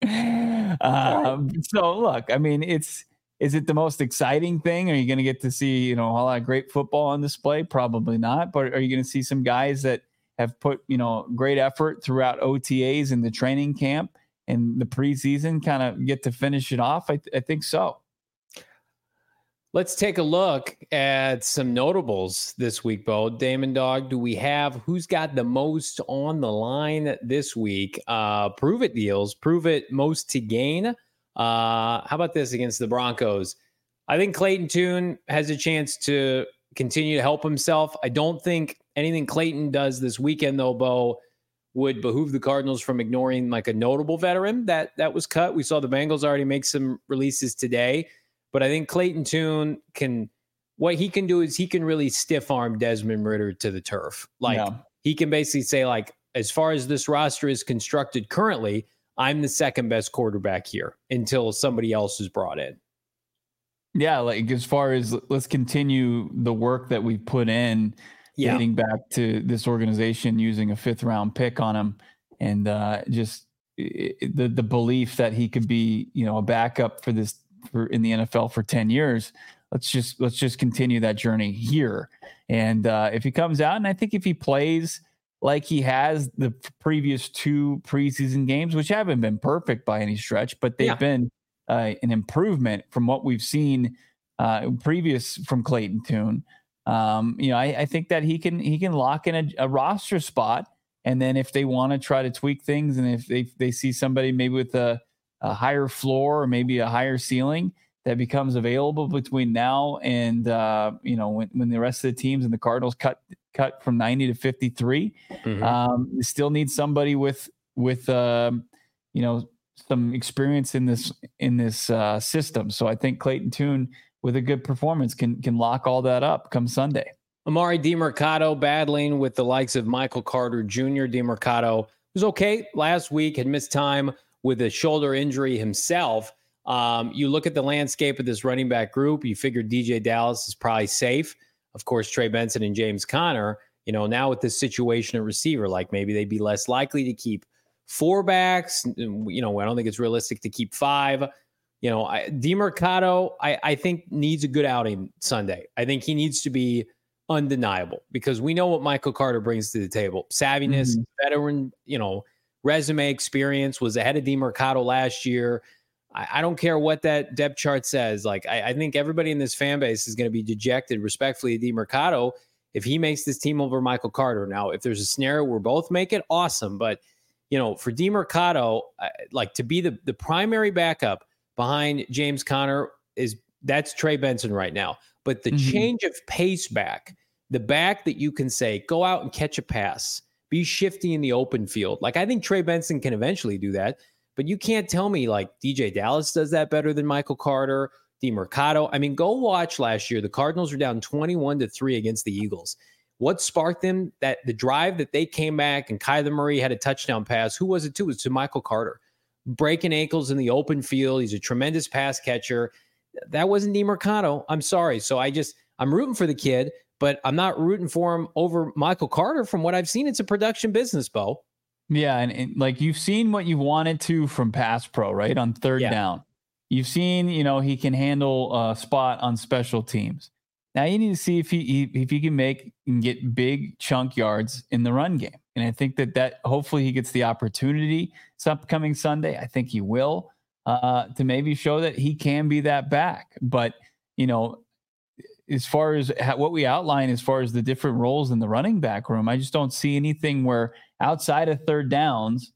Um, so look, I mean, it's, is it the most exciting thing? Are you going to get to see, you know, a lot of great football on display? Probably not, but are you going to see some guys that have put, you know, great effort throughout O T As and the training camp and the preseason kind of get to finish it off? I, th- I think so. Let's take a look at some notables this week, Bo. Damon Dog, do we have who's got the most on the line this week? Uh, prove it deals, prove it most to gain. Uh, how about this against the Broncos? I think Clayton Tune has a chance to continue to help himself. I don't think anything Clayton does this weekend, though, Bo, would behoove the Cardinals from ignoring like a notable veteran that that was cut. We saw the Bengals already make some releases today. But I think Clayton Tune can what he can do is he can really stiff arm Desmond Ridder to the turf. Like Yeah. he can basically say, like, as far as this roster is constructed currently, I'm the second best quarterback here until somebody else is brought in. Yeah, like as far as let's continue the work that we've put in, Yeah. getting back to this organization using a fifth round pick on him, and uh, just it, the the belief that he could be, you know, a backup for this for in the N F L for ten years. Let's just let's just continue that journey here. And uh, if he comes out, and I think if he plays like he has the previous two preseason games, which haven't been perfect by any stretch, but they've Yeah. been uh, an improvement from what we've seen uh, previous from Clayton Tune. Um, you know, I, I think that he can he can lock in a, a roster spot, and then if they want to try to tweak things, and if they they see somebody maybe with a, a higher floor or maybe a higher ceiling that becomes available between now and uh, you know when, when the rest of the teams and the Cardinals cut cut from ninety to fifty-three, Mhm. um, you still need somebody with with um, you know some experience in this in this uh, system. So I think Clayton Tune, with a good performance, can can lock all that up come Sunday. Amari DiMercato battling with the likes of Michael Carter Junior DiMercato was okay last week, had missed time with a shoulder injury himself. Um, you look at the landscape of this running back group, you figure D J Dallas is probably safe. Of course, Trey Benson and James Conner, you know, now with this situation at receiver, like maybe they'd be less likely to keep four backs. You know, I don't think it's realistic to keep five. You know, I, DiMercato, I, I think needs a good outing Sunday. I think he needs to be undeniable because we know what Michael Carter brings to the table. Savviness, mm-hmm. veteran, you know, resume experience, was ahead of DiMercato last year. I, I don't care what that depth chart says. Like, I, I think everybody in this fan base is going to be dejected, respectfully, DiMercato, if he makes this team over Michael Carter. Now, if there's a scenario where both make it, awesome. But, you know, for DiMercato, uh, like to be the, the primary backup behind James Conner, is that's Trey Benson right now. But the mm-hmm. change of pace back, the back that you can say, go out and catch a pass, be shifty in the open field. Like, I think Trey Benson can eventually do that. But you can't tell me like D J Dallas does that better than Michael Carter, DiMercato. I mean, go watch last year. The Cardinals were down twenty-one to three against the Eagles. What sparked them? That the drive that they came back and Kyler Murray had a touchdown pass. Who was it to? It was to Michael Carter. Breaking ankles in the open field. He's a tremendous pass catcher. That wasn't DiMercato. I'm sorry. So I just, I'm rooting for the kid, but I'm not rooting for him over Michael Carter. From what I've seen, it's a production business, Bo. Yeah, and, and like you've seen what you wanted to from pass pro, right? On third yeah. down. You've seen, you know, he can handle a spot on special teams. Now you need to see if he if he can make and get big chunk yards in the run game. And I think that that hopefully he gets the opportunity this upcoming Sunday. I think he will uh, to maybe show that he can be that back. But, you know, as far as what we outline, as far as the different roles in the running back room, I just don't see anything where outside of third downs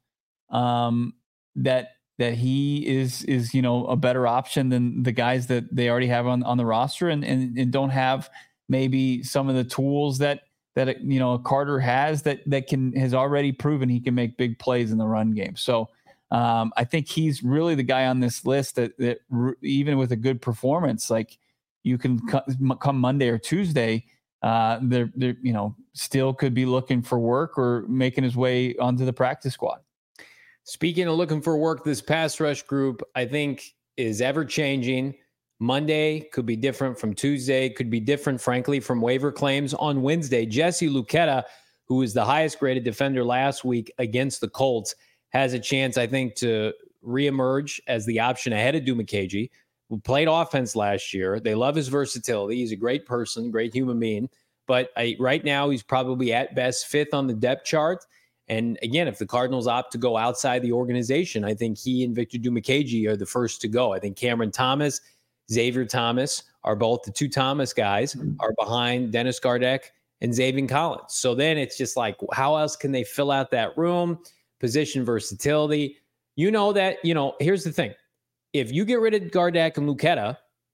um, that that he is is you know a better option than the guys that they already have on, on the roster and, and and don't have maybe some of the tools that that you know Carter has that that can has already proven he can make big plays in the run game. So um, I think he's really the guy on this list that that r- even with a good performance, like you can co- come Monday or Tuesday, uh, they're they're you know still could be looking for work or making his way onto the practice squad. Speaking of looking for work, this pass rush group, I think, is ever changing. Monday could be different from Tuesday, could be different, frankly, from waiver claims on Wednesday. Jesse Luketa, who was the highest graded defender last week against the Colts, has a chance, I think, to reemerge as the option ahead of Dumakaji, who played offense last year. They love his versatility. He's a great person, great human being. But I, right now, he's probably at best fifth on the depth chart. And again, if the Cardinals opt to go outside the organization, I think he and Victor Dumakaji are the first to go. I think Cameron Thomas, Xavier Thomas are both the two Thomas guys are behind Dennis Gardeck and Zaven Collins. So then it's just like, how else can they fill out that room? Position versatility. You know that, you know, here's the thing. If you get rid of Gardeck and Luketa,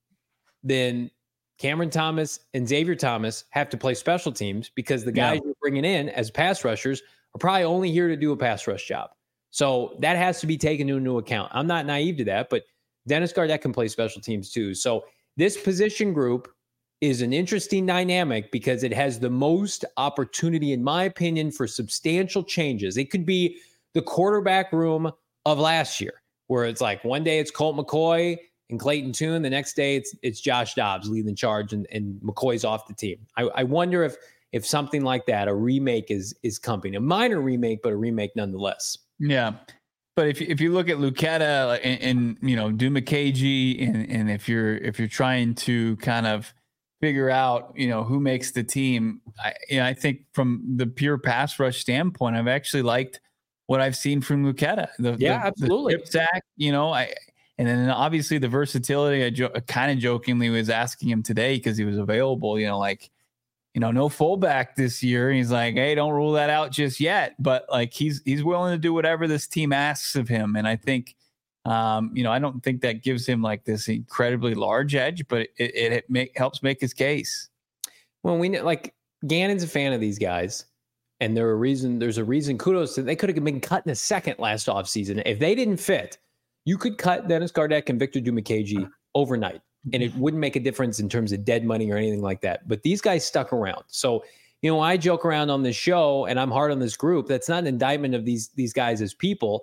then Cameron Thomas and Xavier Thomas have to play special teams because the guys yeah. you're bringing in as pass rushers are probably only here to do a pass rush job. So that has to be taken into account. I'm not naive to that, but Dennis Gardeck can play special teams too. So this position group is an interesting dynamic because it has the most opportunity, in my opinion, for substantial changes. It could be the quarterback room of last year, where it's like one day it's Colt McCoy and Clayton Tune, the next day it's it's Josh Dobbs leading the charge, and, and McCoy's off the team. I, I wonder if if something like that, a remake is is coming, a minor remake, but a remake nonetheless. Yeah. But if if you look at Lucetta and, and you know, Dumukagi, and, and if you're if you're trying to kind of figure out, you know, who makes the team, I you know, I think from the pure pass rush standpoint, I've actually liked what I've seen from Lucetta. The, yeah, the, absolutely. The sack, you know, I and then obviously the versatility. I jo- kind of jokingly was asking him today because he was available. You know, like, you know, no fullback this year. He's like, hey, don't rule that out just yet. But like, he's he's willing to do whatever this team asks of him. And I think, um, you know, I don't think that gives him like this incredibly large edge, but it it, it make, helps make his case. Well, we know, like, Gannon's a fan of these guys, and there a reason. There's a reason. Kudos to, they could have been cut in a second last offseason. If they didn't fit, you could cut Dennis Gardeck and Victor Dumukagi overnight, and it wouldn't make a difference in terms of dead money or anything like that. But these guys stuck around. So, you know, I joke around on this show, and I'm hard on this group. That's not an indictment of these these guys as people.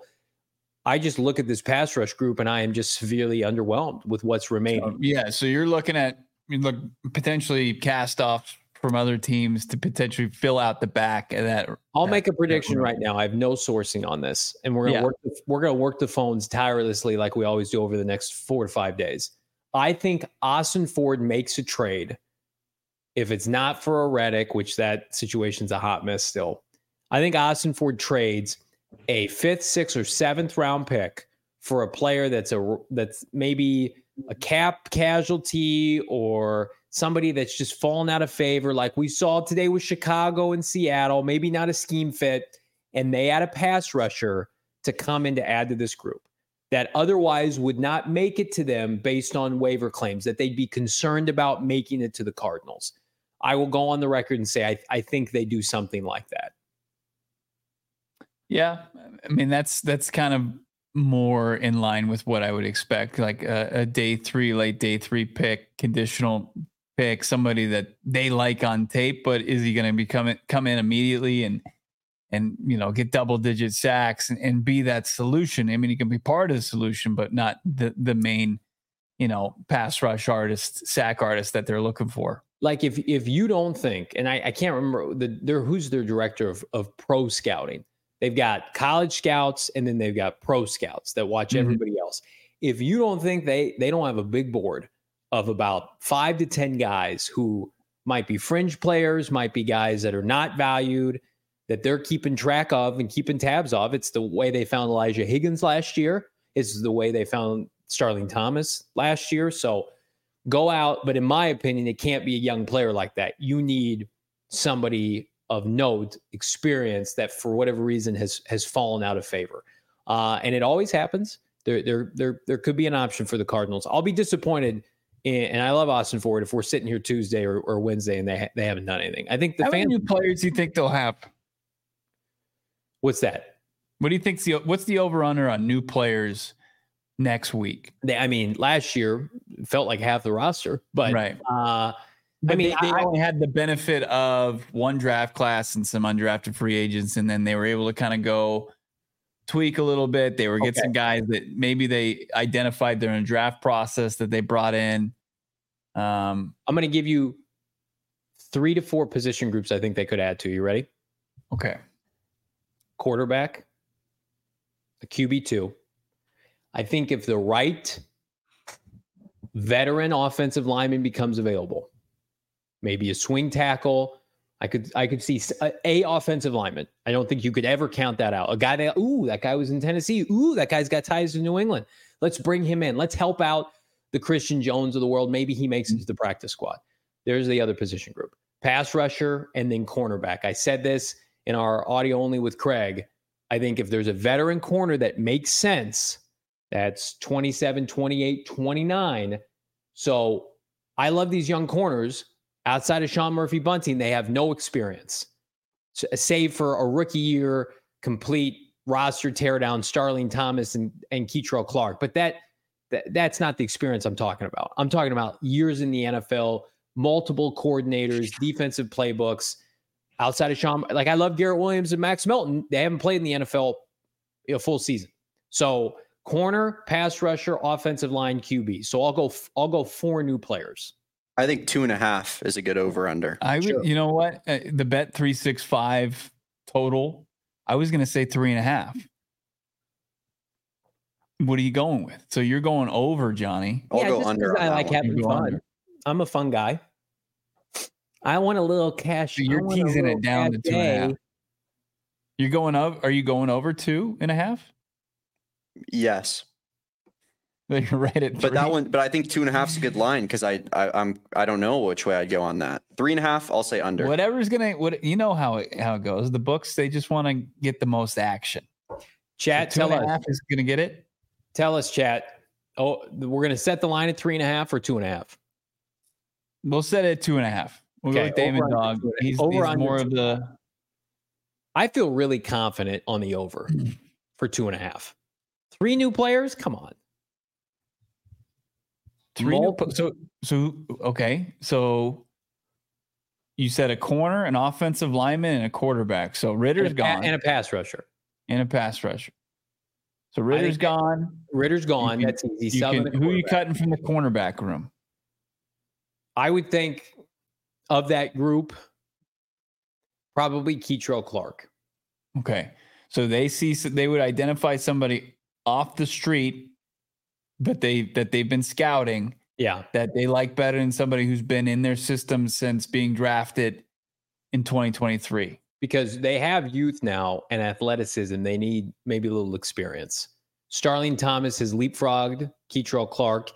I just look at this pass rush group, and I am just severely underwhelmed with what's remaining. So, yeah, so you're looking at you look potentially cast off from other teams to potentially fill out the back of that. I'll that, make a prediction right now. I have no sourcing on this, and we're gonna yeah. work. The, we're gonna work the phones tirelessly like we always do over the next four to five days. I think Austin Ford makes a trade. If it's not for a Reddick, which that situation's a hot mess still, I think Austin Ford trades a fifth, sixth, or seventh round pick for a player that's a that's maybe a cap casualty or somebody that's just fallen out of favor, like we saw today with Chicago and Seattle, maybe not a scheme fit, and they add a pass rusher to come in to add to this group that otherwise would not make it to them based on waiver claims, that they'd be concerned about making it to the Cardinals. I will go on the record and say I, I think they do something like that. Yeah, I mean, that's that's kind of more in line with what I would expect, like a, a day three, late day three pick, conditional pick, somebody that they like on tape, but is he going to be coming come in immediately and and you know get double digit sacks and, and be that solution? I mean, he can be part of the solution, but not the the main, you know, pass rush artist, sack artist that they're looking for. Like if if you don't think, and I, I can't remember the their who's their director of of pro scouting. They've got college scouts and then they've got pro scouts that watch mm-hmm. everybody else. If you don't think they they don't have a big board of about five to ten guys who might be fringe players, might be guys that are not valued, that they're keeping track of and keeping tabs of. It's the way they found Elijah Higgins last year. It's the way they found Starling Thomas last year. So go out. But in my opinion, it can't be a young player like that. You need somebody of note, experience, that for whatever reason has has fallen out of favor. Uh, and it always happens. There, there, there, there could be an option for the Cardinals. I'll be disappointed. In, and I love Austin Ford if we're sitting here Tuesday or, or Wednesday and they ha- they haven't done anything. I think the How fans. many new players do you think they'll have? What's that? What do you think's the what's the over under on new players next week? They, I mean, last year felt like half the roster, but right. Uh, But I mean, they, they I, only had the benefit of one draft class and some undrafted free agents, and then they were able to kind of go tweak a little bit. They were get okay. some guys that maybe they identified during a draft process that they brought in. Um, I'm going to give you three to four position groups I think they could add to. You ready? Okay. Quarterback, a Q B two. I think if the right veteran offensive lineman becomes available, maybe a swing tackle. I could I could see a, a offensive lineman. I don't think you could ever count that out. A guy that, ooh, that guy was in Tennessee. Ooh, that guy's got ties to New England. Let's bring him in. Let's help out the Christian Jones of the world. Maybe he makes it to the practice squad. There's the other position group. Pass rusher and then cornerback. I said this in our audio only with Craig. I think if there's a veteran corner that makes sense, that's twenty-seven, twenty-eight, twenty-nine. So I love these young corners. Outside of Sean Murphy-Bunting, they have no experience, so, save for a rookie year, complete roster teardown, Starling Thomas and, and Keitrell Clark. But that, that that's not the experience I'm talking about. I'm talking about years in the N F L, multiple coordinators, defensive playbooks outside of Sean. Like, I love Garrett Williams and Max Melton. They haven't played in the N F L a full season. So corner, pass rusher, offensive line, Q B. So I'll go, I'll go four new players. I think two and a half is a good over under. I would, Sure. you know what? Uh, the bet three six five total. I was going to say three and a half. What are you going with? So you're going over, Johnny. I'll Yeah, go just under. 'cause on I that like one. having You go fun. under. I'm a fun guy. I want a little cash. So you're I want a teasing it little down to cash two and a half. day. You're going over. Are you going over two and a half? Yes, You're right at. but that three. one. But I think two and a half is a good line because I, I I'm I don't know which way I'd go on that. Three and a half. I'll say under. Whatever's gonna. What you know how it how it goes. The books, they just want to get the most action. Chat, So two tell and a us. half is gonna get it. Tell us, chat. Oh, we're going to set the line at three and a half or two and a half. We'll set it at two and a half. We'll go Okay, with Damon over under Dog. two and a- He's, over he's under more two of the. I feel really confident on the over for two and a half. Three new players? Come on. Three new, Multiple- so so okay. So you said a corner, an offensive lineman, and a quarterback. So Ritter's and, a, pa- gone and a pass rusher. and a pass rusher. So I Ritter's think that- gone. Ritter's gone. can- That's easy. You Subbing can, a who are you quarterback. cutting from the cornerback room? I would think of that group, probably Keitrell Clark. Okay. So they see they would identify somebody off the street, but they that they've been scouting Yeah. that they like better than somebody who's been in their system since being drafted in twenty twenty-three. Because they have youth now and athleticism. They need maybe a little experience. Starling Thomas has leapfrogged Keitrell Clark.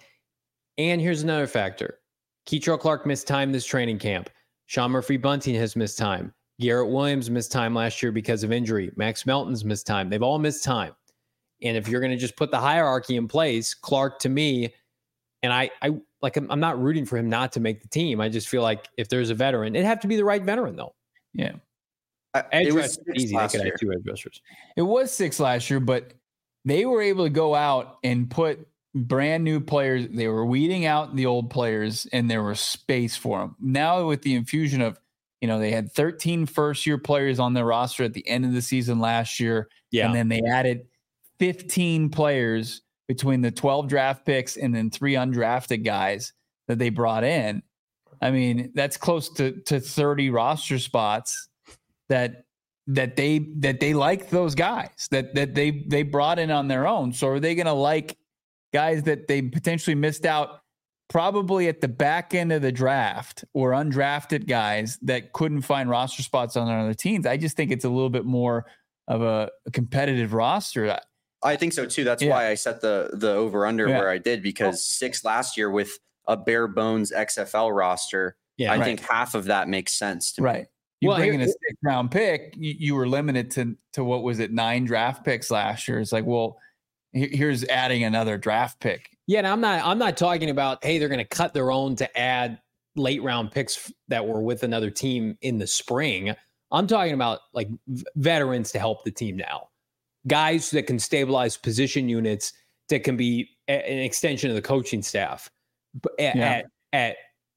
And here's another factor. Keitrell Clark missed time this training camp. Sean Murphy-Bunting has missed time. Garrett Williams missed time last year because of injury. Max Melton's missed time. They've all missed time. And if you're going to just put the hierarchy in place, Clark to me, and I, I like, I'm, I'm not rooting for him not to make the team. I just feel like if there's a veteran, it'd have to be the right veteran though. Yeah. I- Edge it was rushers, six easy. They last could year. have two edge rushers. It was six last year, but they were able to go out and put brand new players. They were weeding out the old players and there was space for them. Now with the infusion of, you know, they had thirteen first year players on their roster at the end of the season last year. Yeah. And then they added fifteen players between the twelve draft picks and then three undrafted guys that they brought in. I mean, that's close to, to thirty roster spots that that they that they like those guys that that they they brought in on their own. So are they going to like guys that they potentially missed out probably at the back end of the draft or undrafted guys that couldn't find roster spots on their other teams? I just think it's a little bit more of a, a competitive roster. I think so too. That's Yeah. why I set the the over under Yeah. where I did because six last year with a bare bones X F L roster. Yeah. I Right. think half of that makes sense to me. Right. You Well, bring in here- a six round pick, you, you were limited to to what was it, nine draft picks last year. It's like, well, he- here's adding another draft pick. Yeah, and I'm not I'm not talking about, hey, they're going to cut their own to add late round picks that were with another team in the spring. I'm talking about like v- veterans to help the team now. Guys that can stabilize position units that can be a- an extension of the coaching staff but at, Yeah. at at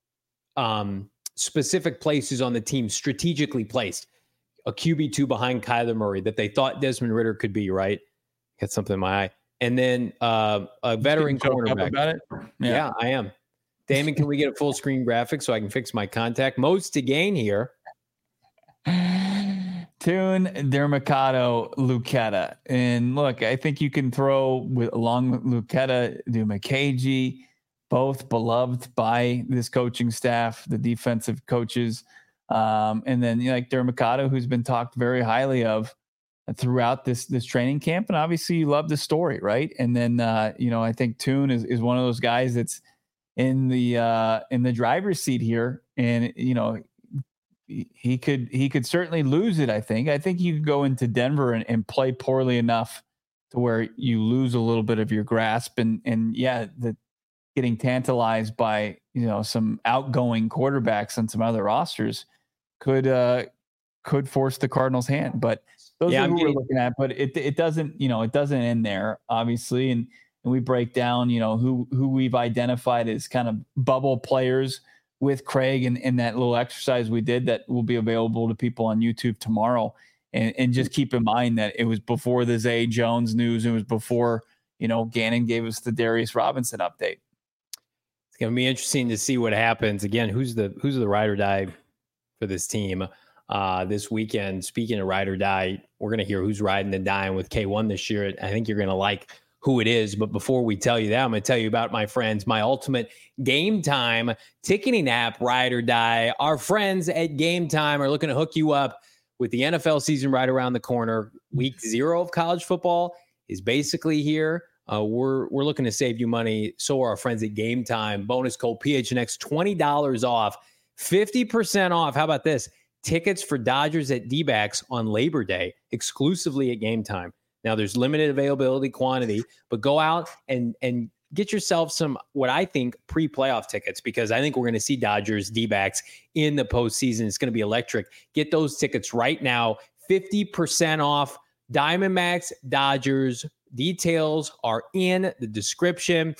um specific places on the team strategically placed. A Q B two behind Kyler Murray that they thought Desmond Ridder could be, right? Got something in my eye. And then uh, a veteran Getting choked up cornerback. about it. Yeah. I am. Damon, can we get a full screen graphic so I can fix my contact? Most to gain here. Tune Dermicado Lucetta. And look, I think you can throw with along with Lucetta, Dumakagi, both beloved by this coaching staff, the defensive coaches. Um, and then you know, like Dermicado, who's been talked very highly of throughout this this training camp. And obviously you love the story, right? And then uh, you know, I think Tune is, is one of those guys that's in the uh, in the driver's seat here. And you know, he could he could certainly lose it. I think. I think you could go into Denver and, and play poorly enough to where you lose a little bit of your grasp. And and yeah, the getting tantalized by you know some outgoing quarterbacks on some other rosters could uh, could force the Cardinals' hand. But those Yeah, are I'm who getting- we're looking at. But it it doesn't you know it doesn't end there, obviously. And and we break down you know who who we've identified as kind of bubble players with Craig and, and that little exercise we did that will be available to people on YouTube tomorrow. And, and just keep in mind that it was before the Zay Jones news. It was before, you know, Gannon gave us the Darius Robinson update. It's going to be interesting to see what happens. Again, who's the who's the ride or die for this team uh, this weekend? Speaking of ride or die, we're going to hear who's riding and dying with K one this year. I think you're going to like who it is. But before we tell you that, I'm going to tell you about my friends, my ultimate Game Time ticketing app, Ride or Die. Our friends at Game Time are looking to hook you up with the N F L season right around the corner. Week zero of college football is basically here. Uh, we're we're looking to save you money. So are our friends at Game Time. Bonus code P H N X, twenty dollars off, fifty percent off. How about this? Tickets for Dodgers at D-backs on Labor Day, exclusively at Game Time. Now, there's limited availability quantity, but go out and and get yourself some, what I think, pre-playoff tickets, because I think we're going to see Dodgers D-backs in the postseason. It's going to be electric. Get those tickets right now. fifty percent off. Diamondbacks, Dodgers. Details are in the description.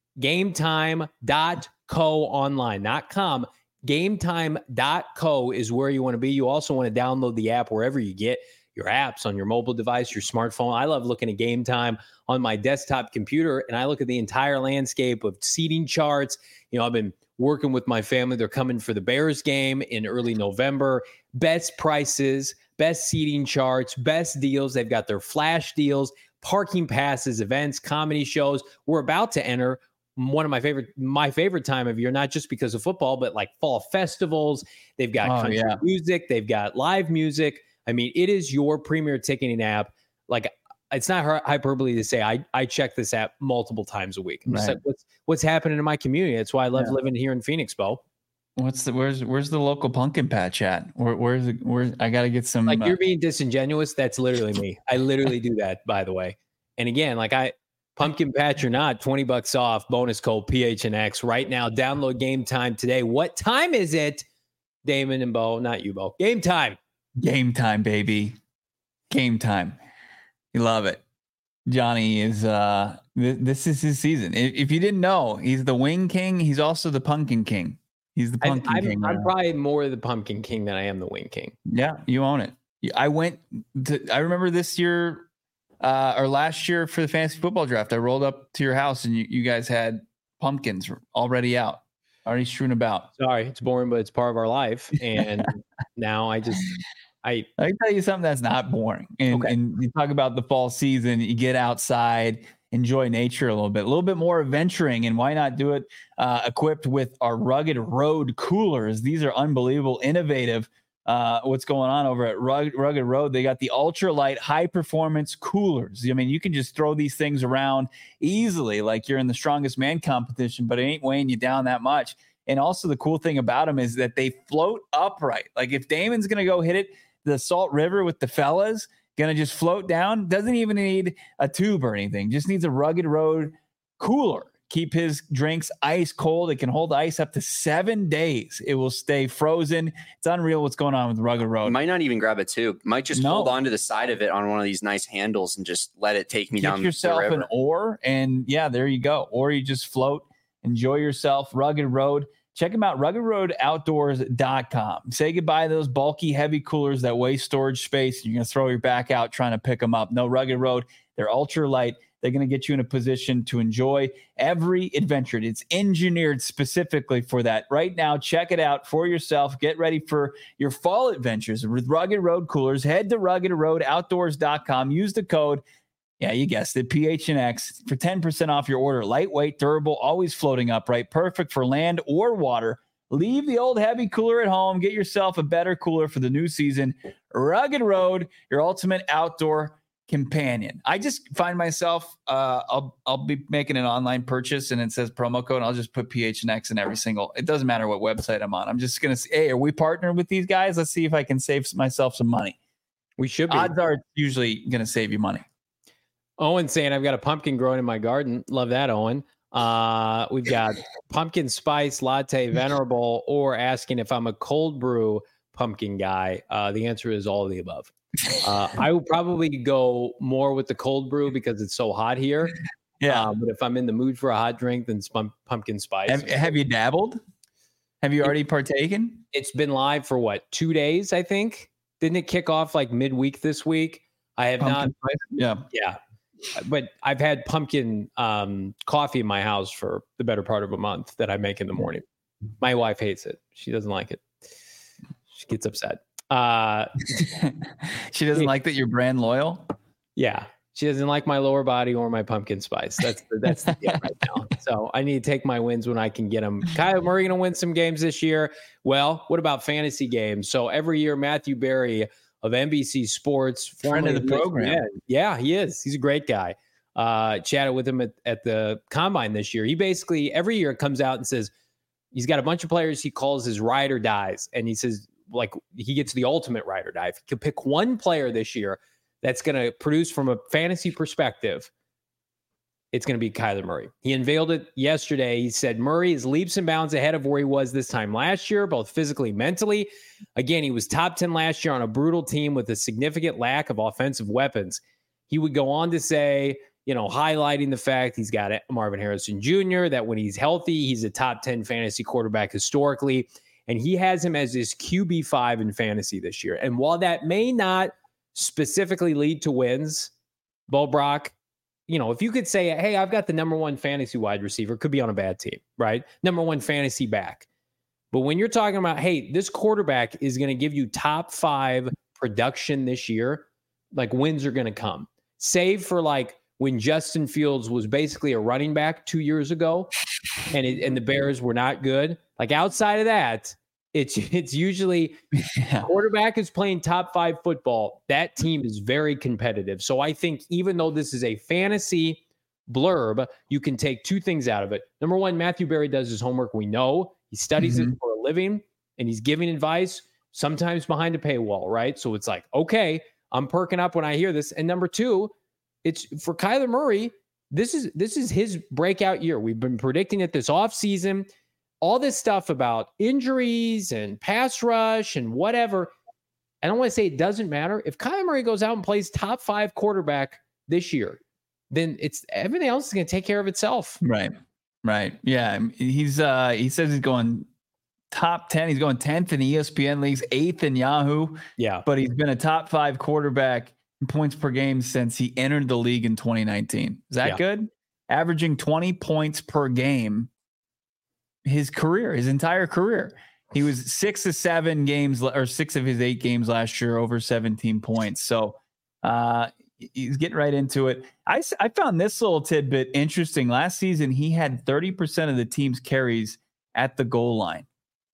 GameTime dot co online, not com. GameTime dot co is where you want to be. You also want to download the app wherever you get your apps, on your mobile device, your smartphone. I love looking at Game Time on my desktop computer, and I look at the entire landscape of seating charts. You know, I've been working with my family. They're coming for the Bears game in early November. Best prices, best seating charts, best deals. They've got their flash deals, parking passes, events, comedy shows. We're about to enter one of my favorite, my favorite time of year, not just because of football, but like fall festivals. They've got Oh, country yeah. music. They've got live music. I mean, it is your premier ticketing app. Like, it's not hy- hyperbole to say I, I check this app multiple times a week. I'm just Right. like, what's what's happening in my community? That's why I love Yeah. living here in Phoenix, Bo. What's the where's where's the local pumpkin patch at? Where, where's the, where I got to get some. Like, uh, you're being disingenuous. That's literally me. I literally do that, by the way. And again, like I, pumpkin patch or not, twenty bucks off, bonus code P H N X right now. Download Game Time today. What time is it? Damon and Bo, not you, Bo. Game Time. Game Time, baby. Game Time. You love it. Johnny is uh th- this is his season. If, if you didn't know, he's the wing king. He's also the pumpkin king. He's the I, pumpkin I'm, king. I'm now. probably more the pumpkin king than I am the wing king. Yeah, you own it. I went to, I remember this year uh, or last year for the fantasy football draft, I rolled up to your house and you, you guys had pumpkins already out, already strewn about. Sorry, it's boring, but it's part of our life. And now I just, I, I can tell you something that's not boring. And, Okay. and you talk about the fall season, you get outside, enjoy nature a little bit, a little bit more adventuring. And why not do it uh, equipped with our Rugged Road coolers? These are unbelievable, innovative. Uh, what's going on over at Rugged, Rugged Road? They got the ultralight high performance coolers. I mean, you can just throw these things around easily like you're in the strongest man competition, but it ain't weighing you down that much. And also the cool thing about them is that they float upright. Like if Damon's going to go hit it, the Salt River with the fellas, going to just float down, doesn't even need a tube or anything, just needs a Rugged Road cooler. Keep his drinks ice cold. It can hold ice up to seven days. It will stay frozen. It's unreal what's going on with Rugged Road. Might not even grab a tube. Might just No. hold on to the side of it on one of these nice handles and just let it take me Get down yourself the river. an oar, and yeah, there you go. Or you just float, enjoy yourself. Rugged Road. Check them out, rugged road outdoors dot com. Say goodbye to those bulky, heavy coolers that waste storage space. You're going to throw your back out trying to pick them up. No, Rugged Road. They're ultra light. They're going to get you in a position to enjoy every adventure. It's engineered specifically for that. Right now, check it out for yourself. Get ready for your fall adventures with Rugged Road coolers. Head to rugged road outdoors dot com. Use the code, yeah, you guessed it, P H N X for ten percent off your order. Lightweight, durable, always floating upright, perfect for land or water. Leave the old heavy cooler at home. Get yourself a better cooler for the new season. Rugged Road, your ultimate outdoor companion. I just find myself, uh, I'll I'll be making an online purchase and it says promo code. And I'll just put P H N X in every single. It doesn't matter what website I'm on. I'm just gonna say, hey, are we partnered with these guys? Let's see if I can save myself some money. we should be. Odds are it's usually gonna save you money. Owen saying I've got a pumpkin growing in my garden. Love that, Owen. Uh, we've got pumpkin spice latte venerable, or asking if I'm a cold brew pumpkin guy. Uh, the answer is all of the above. Uh, I would probably go more with the cold brew because it's so hot here. Yeah. Uh, but if I'm in the mood for a hot drink, then it's pump- pumpkin spice. Have, have you dabbled? Have you already partaken? It's been live for what, two days, I think? Didn't it kick off like midweek this week? I have Pumpkin not. spice? Yeah. Yeah. But I've had pumpkin um, coffee in my house for the better part of a month that I make in the morning. My wife hates it. She doesn't like it. She gets upset. Uh, she doesn't like that you're brand loyal? Yeah. She doesn't like my lower body or my pumpkin spice. That's the, that's the deal right now. So I need to take my wins when I can get them. Kyler Murray going to win some games this year. Well, what about fantasy games? So every year, Matthew Berry of N B C Sports, friend of the program. Yeah, he is. He's a great guy. Uh, chatted with him at, at the combine this year. He basically every year comes out and says he's got a bunch of players he calls his ride or dies. And he says, like, he gets the ultimate ride or die. If he could pick one player this year that's going to produce from a fantasy perspective, it's going to be Kyler Murray. He unveiled it yesterday. He said Murray is leaps and bounds ahead of where he was this time last year, both physically and mentally. Again, he was top ten last year on a brutal team with a significant lack of offensive weapons. He would go on to say, you know, highlighting the fact he's got Marvin Harrison Junior, that when he's healthy, he's a top ten fantasy quarterback historically. And he has him as his Q B five in fantasy this year. And while that may not specifically lead to wins, Bo Brock, you know, if you could say, hey, I've got the number one fantasy wide receiver, could be on a bad team, right? Number one fantasy back. But when you're talking about, hey, this quarterback is going to give you top five production this year, like wins are going to come. Save for like when Justin Fields was basically a running back two years ago and it, and the Bears were not good. Like outside of that, It's it's usually yeah. quarterback is playing top five football. That team is very competitive. So I think even though this is a fantasy blurb, you can take two things out of it. Number one, Matthew Berry does his homework. We know he studies mm-hmm. it for a living, and he's giving advice sometimes behind a paywall, right? So it's like, okay, I'm perking up when I hear this. And number two, it's for Kyler Murray. This is this is his breakout year. We've been predicting it this offseason. All this stuff about injuries and pass rush and whatever. I don't want to say it doesn't matter. If Kyler Murray goes out and plays top five quarterback this year, then it's everything else is going to take care of itself. Right. Right. Yeah. He's uh he says he's going top ten. He's going tenth in E S P N leagues, eighth in Yahoo. Yeah. But he's been a top five quarterback in points per game since he entered the league in twenty nineteen. Is that yeah. good? Averaging twenty points per game. His career, his entire career. He was six of seven games or six of his eight games last year, over seventeen points. So uh, he's getting right into it. I, I found this little tidbit interesting. Last season, he had thirty percent of the team's carries at the goal line.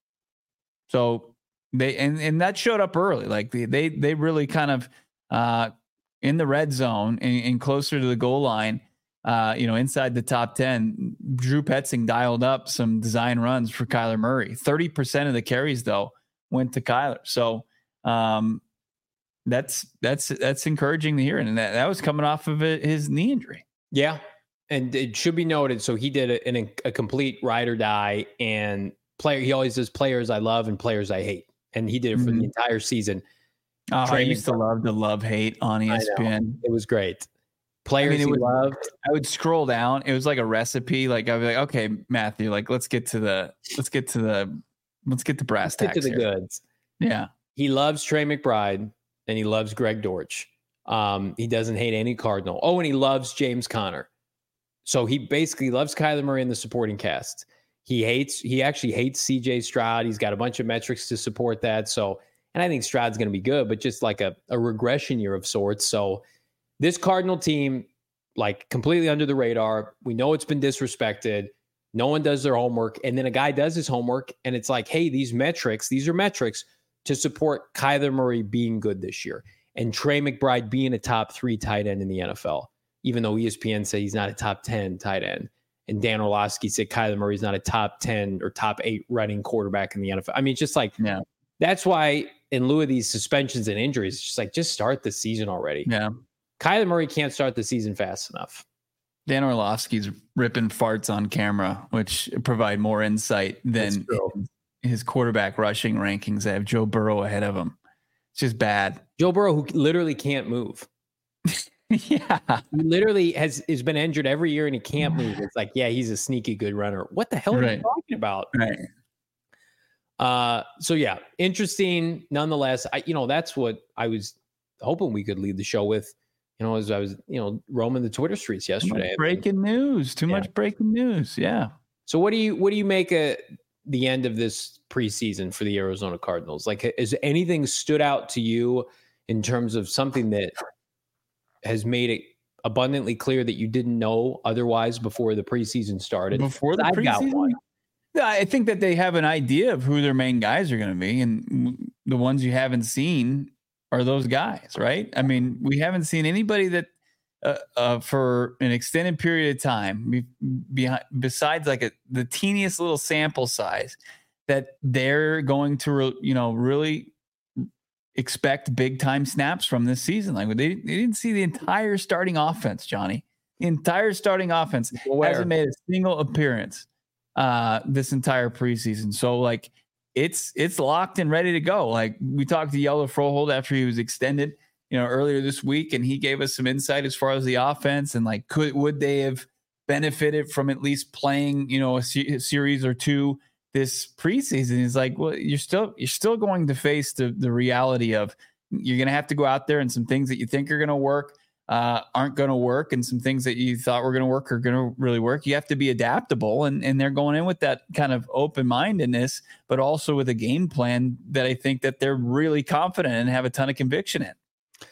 So they, and, and that showed up early. Like they, they, they really kind of uh, in the red zone and, and closer to the goal line. Uh, you know, inside the top ten, Drew Petzing dialed up some design runs for Kyler Murray. thirty percent of the carries, though, went to Kyler. So um, that's that's that's encouraging to hear. And that, that was coming off of a, his knee injury. Yeah. And it should be noted. So he did a, a, a complete ride or die, and player. He always does players I love and players I hate. And he did it for mm-hmm. the entire season. Oh, I used to love the love hate on E S P N. It was great. Players I mean, it he was, loved. I would scroll down. It was like a recipe. Like I'd be like, okay, Matthew, like let's get to the let's get to the let's get to brass tacks. Get to the here. goods. Yeah. He loves Trey McBride and he loves Greg Dortch. Um, he doesn't hate any Cardinal. Oh, and he loves James Conner. So he basically loves Kyler Murray and the supporting cast. He hates, he actually hates C J Stroud. He's got a bunch of metrics to support that. So, and I think Stroud's going to be good, but just like a, a regression year of sorts. So this Cardinal team, like completely under the radar. We know it's been disrespected. No one does their homework. And then a guy does his homework and it's like, hey, these metrics, these are metrics to support Kyler Murray being good this year and Trey McBride being a top three tight end in the N F L, even though E S P N said he's not a top ten tight end. And Dan Orlovsky said Kyler Murray's not a top ten or top eight running quarterback in the N F L. I mean, it's just like, yeah. That's why in lieu of these suspensions and injuries, it's just like, just start the season already. Yeah. Kyler Murray can't start the season fast enough. Dan Orlovsky's ripping farts on camera, which provide more insight than his quarterback rushing rankings. They have Joe Burrow ahead of him. It's just bad. Joe Burrow, who literally can't move. yeah. He literally has, has been injured every year and he can't move. It's like, yeah, he's a sneaky good runner. What the hell are right. you talking about? Right. Uh, so yeah, interesting nonetheless. I, you know, that's what I was hoping we could lead the show with, you know, as I was, you know, roaming the Twitter streets yesterday. Too much breaking news. Too yeah. much breaking news. Yeah. So what do you, what do you make of the end of this preseason for the Arizona Cardinals? Like, has anything stood out to you in terms of something that has made it abundantly clear that you didn't know otherwise before the preseason started? Before the I've preseason? got one. I think that they have an idea of who their main guys are going to be, and the ones you haven't seen are those guys, right? I mean, we haven't seen anybody that uh, uh, for an extended period of time, be, behind, besides like a, the teeniest little sample size, that they're going to, re, you know, really expect big time snaps from this season. Like they, they didn't see the entire starting offense, Johnny. The entire starting offense Where? hasn't made a single appearance uh this entire preseason. So like it's it's locked and ready to go. Like we talked to Yeller Frohold after he was extended, you know, earlier this week, and he gave us some insight as far as the offense and like could would they have benefited from at least playing, you know, a, se- a series or two this preseason. He's like, well, you're still you're still going to face the the reality of you're going to have to go out there and some things that you think are going to work Uh, aren't going to work, and some things that you thought were going to work are going to really work. You have to be adaptable, and, and they're going in with that kind of open-mindedness, but also with a game plan that I think that they're really confident and have a ton of conviction in.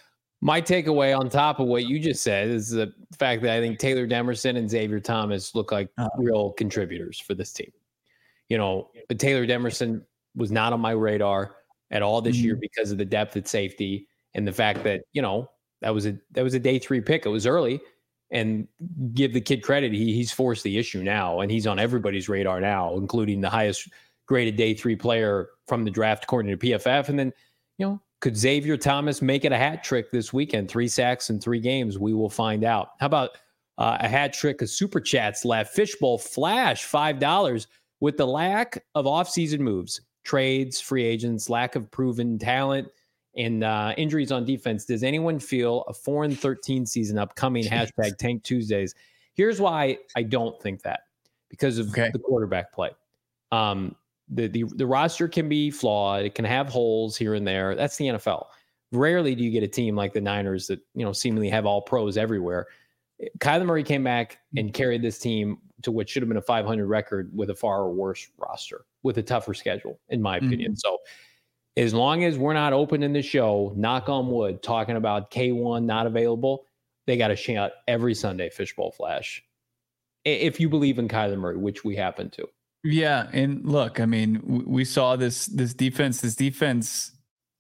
My takeaway on top of what you just said is the fact that I think Taylor Demerson and Xavier Thomas look like uh, real contributors for this team. You know, but Taylor Demerson was not on my radar at all this mm-hmm. year because of the depth at safety and the fact that, you know, That was a that was a day three pick. It was early, and give the kid credit. He he's forced the issue now, and he's on everybody's radar now, including the highest graded day three player from the draft according to P F F. And then, you know, could Xavier Thomas make it a hat trick this weekend? Three sacks in three games. We will find out. How about uh, a hat trick of super chats left? Fishbowl Flash five dollars with the lack of offseason moves, trades, free agents, lack of proven talent, and uh, injuries on defense. Does anyone feel a four and thirteen season upcoming? Hashtag Tank Tuesdays. Here's why I don't think that, because of okay. the quarterback play. Um, the, the the roster can be flawed. It can have holes here and there. That's the N F L. Rarely do you get a team like the Niners that, you know, seemingly have all pros everywhere. Kyler Murray came back and carried this team to what should have been a five hundred record with a far worse roster, with a tougher schedule, in my opinion. Mm-hmm. So as long as we're not opening the show, knock on wood, talking about K one not available, they got to shout every Sunday, Fishbowl Flash. If you believe in Kyler Murray, which we happen to. Yeah. And look, I mean, we saw this, this defense, this defense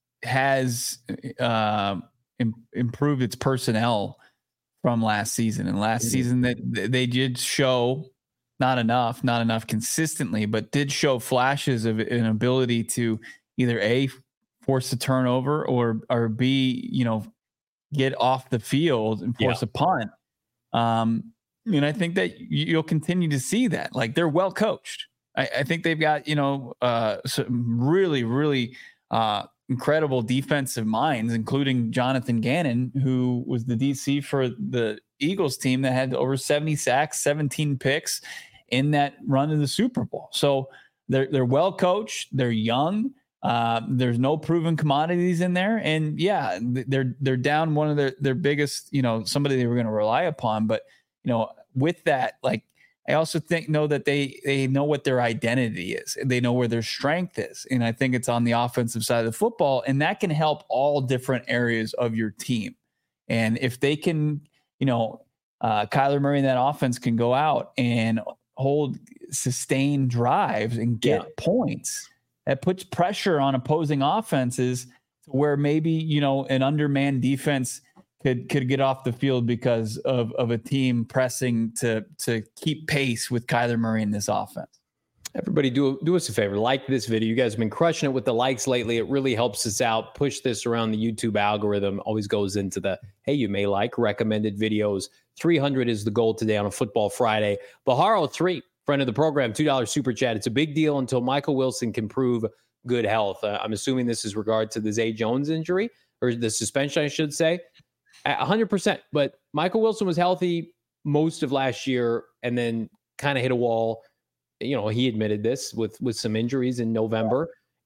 has uh, im- improved its personnel from last season. And last mm-hmm. season that they did show not enough, not enough consistently, but did show flashes of an ability to either A, force a turnover, or or B, you know, get off the field and force yeah. a punt. Um, and I think that you'll continue to see that. Like, they're well coached. I, I think they've got, you know, uh, some really, really uh, incredible defensive minds, including Jonathan Gannon, who was the D C for the Eagles team that had over seventy sacks, seventeen picks in that run to the Super Bowl. So they're they're well coached. They're young. Uh, there's no proven commodities in there, and yeah, they're they're down one of their their biggest, you know, somebody they were going to rely upon. But you know, with that, like, I also think know that they they know what their identity is. They know where their strength is, and I think it's on the offensive side of the football, and that can help all different areas of your team. And if they can, you know, uh, Kyler Murray and that offense can go out and hold sustained drives and get yeah. points. That puts pressure on opposing offenses where maybe, you know, an undermanned defense could could get off the field because of, of a team pressing to to keep pace with Kyler Murray in this offense. Everybody do, do us a favor. Like this video. You guys have been crushing it with the likes lately. It really helps us out. Push this around the YouTube algorithm. Always goes into the, hey, you may like recommended videos. three hundred is the goal today on a Football Friday. Baharo three. Friend of the program, two dollars super chat. It's a big deal until Michael Wilson can prove good health. Uh, I'm assuming this is regard to the Zay Jones injury, or the suspension, I should say. one hundred percent. But Michael Wilson was healthy most of last year and then kind of hit a wall. You know, he admitted this with, with some injuries in November.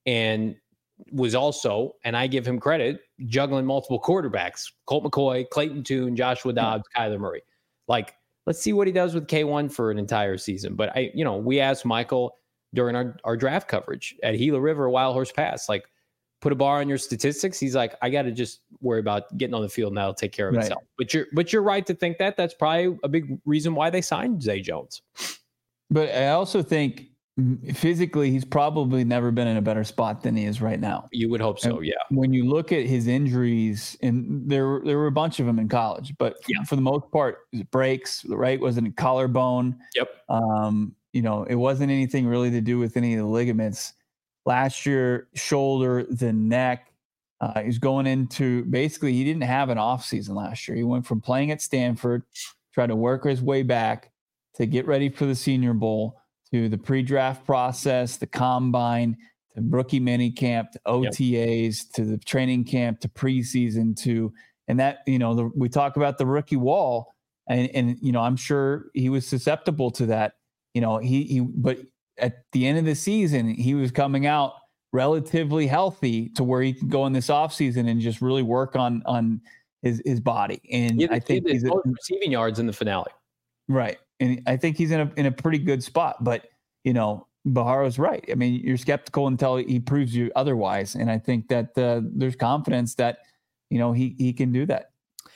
and was also, and I give him credit, juggling multiple quarterbacks: Colt McCoy, Clayton Tune, Joshua Dobbs, yeah. Kyler Murray. Like, let's see what he does with K one for an entire season. But I, you know, we asked Michael during our, our draft coverage at Gila River, Wild Horse Pass, like, put a bar on your statistics. He's like, I got to just worry about getting on the field and that'll take care of right. itself. But you're, but you're right to think that that's probably a big reason why they signed Zay Jones. But I also think physically, he's probably never been in a better spot than he is right now. You would hope so, and yeah. When you look at his injuries, and there, there were a bunch of them in college, but yeah. for the most part, it was breaks, right? Wasn't a collarbone. Yep. Um, you know, it wasn't anything really to do with any of the ligaments. Last year, shoulder, the neck. Uh, he's going into basically, he didn't have an off season last year. He went from playing at Stanford, tried to work his way back to get ready for the Senior Bowl, to the pre-draft process, the combine, to rookie mini camp, to O T As, yep. to the training camp, to preseason, to, and that, you know, the, we talk about the rookie wall, and, and, you know, I'm sure he was susceptible to that, you know, he, he, but at the end of the season, he was coming out relatively healthy to where he could go in this offseason and just really work on, on his, his body. And he I think he's he's most receiving yards in the finale. Right. And I think he's in a, in a pretty good spot, but you know, Baharo's right. I mean, you're skeptical until he proves you otherwise. And I think that uh, there's confidence that, you know, he, he can do that.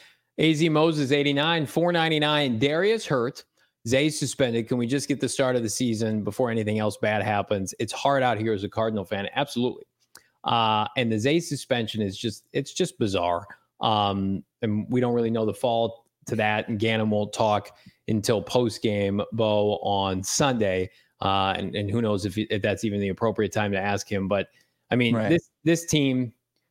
A Z Moses eighty-nine, four ninety-nine, Darius hurt. Zay suspended. Can we just get the start of the season before anything else bad happens? It's hard out here as a Cardinal fan. Absolutely. Uh, and the Zay suspension is just, it's just bizarre. Um, and we don't really know the fault to that. And Gannon won't talk until post game, Bo, on Sunday. Uh, and, and who knows if, if that's even the appropriate time to ask him. But I mean, right. this, this team,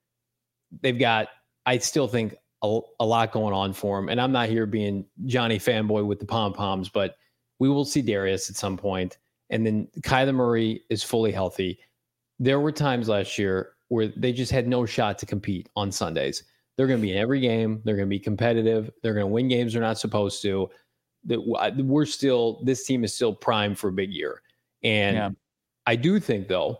they've got, I still think, A, a lot going on for him. And I'm not here being Johnny fanboy with the pom-poms, but we will see Darius at some point. And then Kyler Murray is fully healthy. There were times last year where they just had no shot to compete on Sundays. They're going to be in every game. They're going to be competitive. They're going to win games they're not supposed to. That we're still, this team is still primed for a big year. And yeah. I do think, though,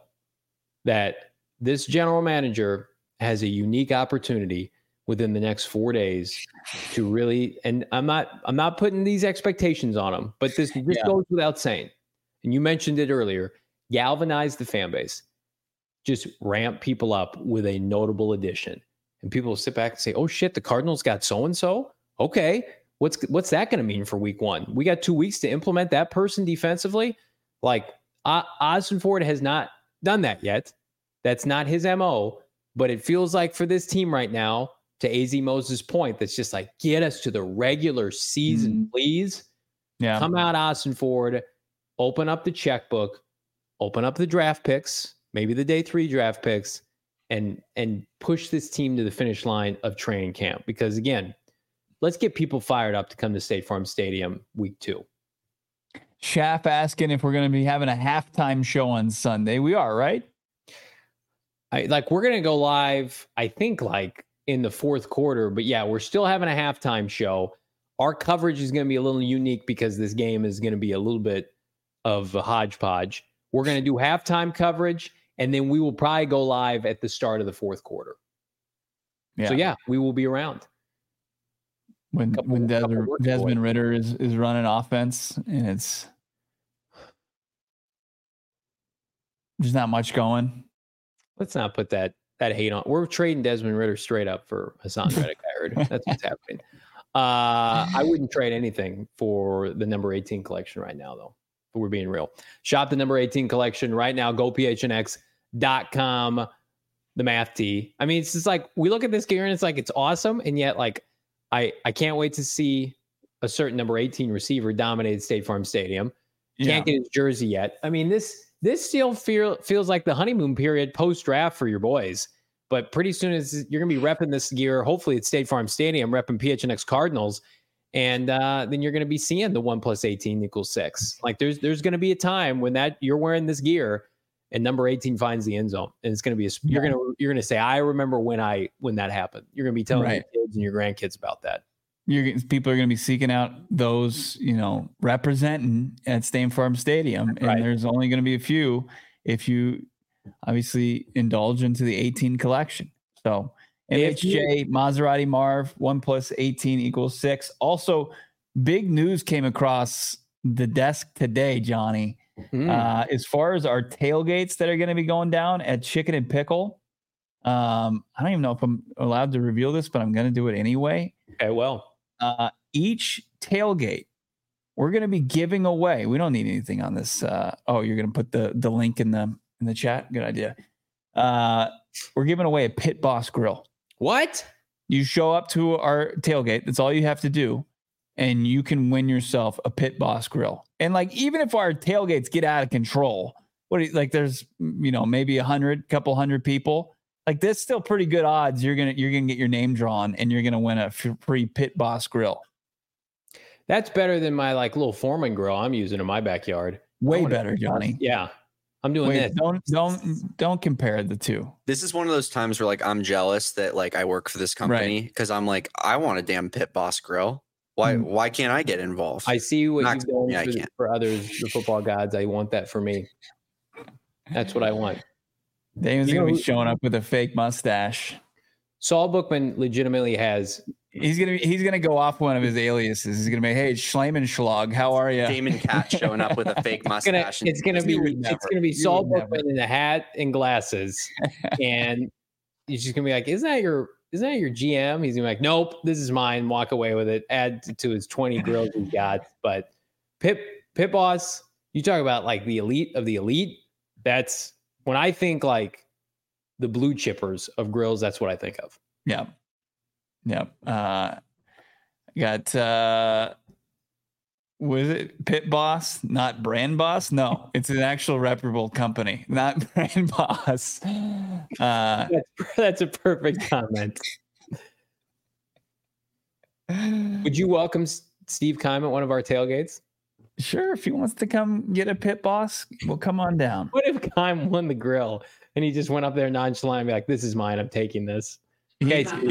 that this general manager has a unique opportunity within the next four days to really, and I'm not, I'm not putting these expectations on them, but this, this yeah. goes without saying. And you mentioned it earlier, galvanize the fan base, just ramp people up with a notable addition. And people will sit back and say, oh shit, the Cardinals got so-and-so. Okay. What's, what's that going to mean for week one? We got two weeks to implement that person defensively. Like uh, Austin Ford has not done that yet. That's not his M O, but it feels like for this team right now, to A Z Moses' point, that's just like, get us to the regular season, mm-hmm. please. Yeah. Come out, Austin Ford, open up the checkbook, open up the draft picks, maybe the day three draft picks, and and push this team to the finish line of training camp. Because again, let's get people fired up to come to State Farm Stadium week two. Schaff asking if we're going to be having a halftime show on Sunday. We are, right? I like we're going to go live, I think, like in the fourth quarter, but yeah, we're still having a halftime show. Our coverage is going to be a little unique because this game is going to be a little bit of a hodgepodge. We're going to do halftime coverage, and then we will probably go live at the start of the fourth quarter. Yeah. So yeah, we will be around. When couple, when Des- Desmond Ritter is, is running offense, and it's there's not much going. Let's not put that that hate on. We're trading Desmond Ritter straight up for Hassan Reddick. I heard that's what's happening. Uh, I wouldn't trade anything for the number eighteen collection right now, though. But we're being real. Shop the number eighteen collection right now. Go P H N X dot com. The math tee. I mean, it's just like we look at this gear and it's like it's awesome, and yet like I I can't wait to see a certain number eighteen receiver dominate State Farm Stadium. Can't yeah. get his jersey yet. I mean, this. This still feel, feels like the honeymoon period post-draft for your boys. But pretty soon as you're going to be repping this gear, hopefully at State Farm Stadium, repping P H N X Cardinals, and uh, then you're going to be seeing the one plus eighteen equals six. Like there's there's going to be a time when that you're wearing this gear and number eighteen finds the end zone, and it's going to be a, you're yeah. going to you're going to say, I remember when I when that happened. You're going to be telling right. your kids and your grandkids about that. You're, people are going to be seeking out those, you know, representing at State Farm Stadium, and right. there's only going to be a few. If you obviously indulge into the eighteen collection. So M H J, Maserati Marv, one plus eighteen equals six. Also, big news came across the desk today, Johnny. Mm. Uh, as far as our tailgates that are going to be going down at Chicken and Pickle, um, I don't even know if I'm allowed to reveal this, but I'm going to do it anyway. Okay, well. Uh, each tailgate, we're going to be giving away. We don't need anything on this. Uh, oh, you're going to put the, the link in the in the chat? Good idea. Uh, we're giving away a Pit Boss grill. What? You show up to our tailgate. That's all you have to do. And you can win yourself a Pit Boss grill. And like, even if our tailgates get out of control, what do you, like there's, you know, maybe a hundred, couple hundred people, like that's still pretty good odds. You're going to, you're going to get your name drawn and you're going to win a free Pit Boss grill. That's better than my like little Foreman grill I'm using in my backyard. Way better, Johnny. Yeah. I'm doing Wait, this. Don't don't don't compare the two. This is one of those times where like I'm jealous that like I work for this company because right. I'm like I want a damn Pit Boss grill. Why mm. why can't I get involved? I see what Not, you've done yeah, for, for others, the football gods. I want that for me. That's what I want. Damon's gonna be showing up with a fake mustache. Saul Bookman legitimately has. He's gonna he's gonna go off one of his aliases. He's gonna be, hey, Schleimenschlag, how are you? Damon Cat showing up with a fake mustache. It's gonna, it's gonna be never, it's gonna be Saul Bookman never. in a hat and glasses, and he's just gonna be like, "Isn't that your isn't that your G M?" He's gonna be like, "Nope, this is mine." Walk away with it. Add to, to his twenty grills he's got. But Pit Pit Boss, you talk about like the elite of the elite. That's when I think like the blue chippers of grills. That's what I think of. Yeah. Yep. Uh, got, uh, was it Pit Boss, not Brand Boss? No, it's an actual reputable company, not Brand Boss. Uh, that's, that's a perfect comment. Would you welcome Steve Keim at one of our tailgates? Sure. If he wants to come get a Pit Boss, we'll come on down. What if Keim won the grill and he just went up there nonchalant and be like, "This is mine. I'm taking this." Okay, so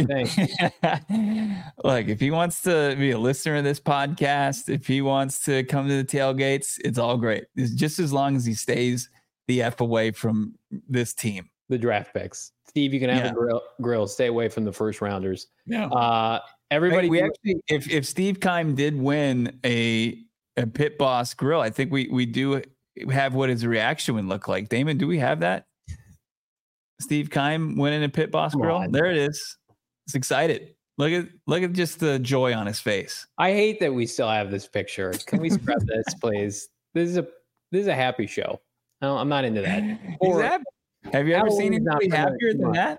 look, if he wants to be a listener of this podcast, if he wants to come to the tailgates, it's all great. It's just as long as he stays the F away from this team. The draft picks. Steve, you can have yeah. a grill, grill. Stay away from the first rounders. Yeah. Uh, everybody, we actually, if if Steve Keim did win a a Pit Boss grill, I think we we do have what his reaction would look like. Damon, do we have that? Steve Keim winning a Pit Boss Come grill. On. There it is. It's excited. Look at look at just the joy on his face. I hate that we still have this picture. Can we spread this, please? This is a this is a happy show. No, I'm not into that. Or, have you ever seen anybody happier than that?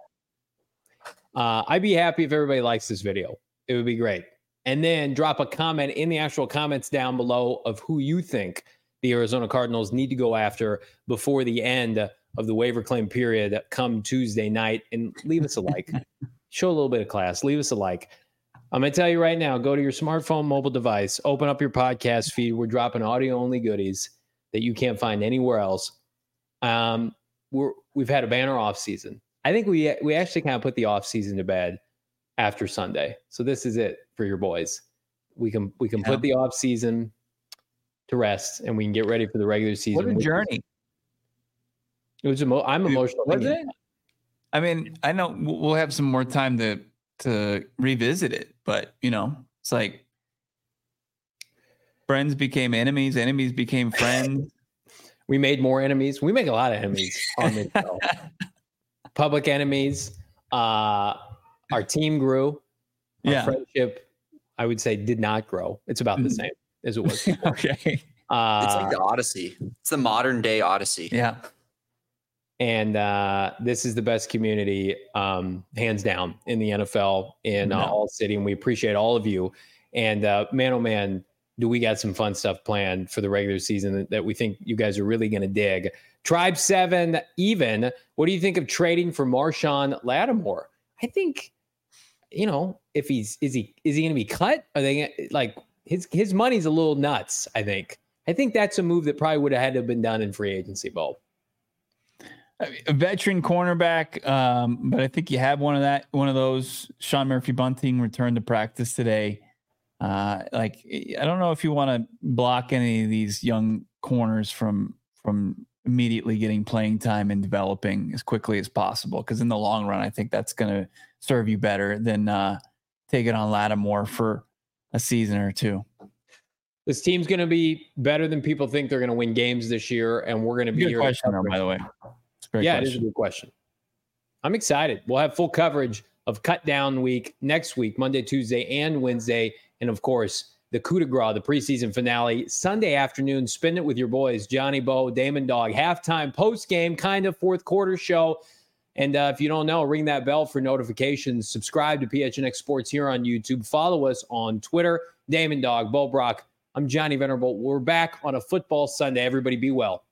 Uh, I'd be happy if everybody likes this video. It would be great. And then drop a comment in the actual comments down below of who you think the Arizona Cardinals need to go after before the end of the waiver claim period come Tuesday night, and leave us a like. Show a little bit of class. Leave us a like. I'm going to tell you right now, go to your smartphone, mobile device, open up your podcast feed. We're dropping audio-only goodies that you can't find anywhere else. Um, we're, we've had a banner off season. I think we we actually kind of put the off season to bed after Sunday. So this is it for your boys. We can we can yeah. put the off season to rest, and we can get ready for the regular season. What a journey. It was emo- I'm emotional. Was it? I mean, I know we'll have some more time to to revisit it, but you know, it's like friends became enemies, enemies became friends. We made more enemies. We make a lot of enemies on this show. Public enemies. Uh, our team grew. Our yeah. friendship, I would say, did not grow. It's about the same as it was before. Okay. Uh, it's like the Odyssey. It's the modern day Odyssey. Yeah. And uh, this is the best community, um, hands down, in the N F L, in uh, no. all city. And we appreciate all of you. And uh, man, oh man, do we got some fun stuff planned for the regular season that, that we think you guys are really going to dig. Tribe seven, even. What do you think of trading for Marshawn Lattimore? I think, you know, if he's is he is he going to be cut? Are they gonna, like his his money's a little nuts? I think. I think that's a move that probably would have had to have been done in free agency, Bo. A veteran cornerback, um, but I think you have one of that, one of those. Sean Murphy Bunting returned to practice today. Uh, like, I don't know if you want to block any of these young corners from from immediately getting playing time and developing as quickly as possible. Because in the long run, I think that's going to serve you better than uh, taking on Lattimore for a season or two. This team's going to be better than people think. They're going to win games this year, and we're going to be good here. Question, though, by the way. It's a great yeah, question. it is a good question. I'm excited. We'll have full coverage of Cut Down Week next week, Monday, Tuesday, and Wednesday, and of course, the coup de grace, the preseason finale, Sunday afternoon. Spend it with your boys, Johnny Bo, Damon Dog. Halftime, post-game, kind of fourth quarter show. And uh, if you don't know, ring that bell for notifications. Subscribe to P H N X Sports here on YouTube. Follow us on Twitter. Damon Dog, Bo Brock. I'm Johnny Venerable. We're back on a football Sunday. Everybody be well.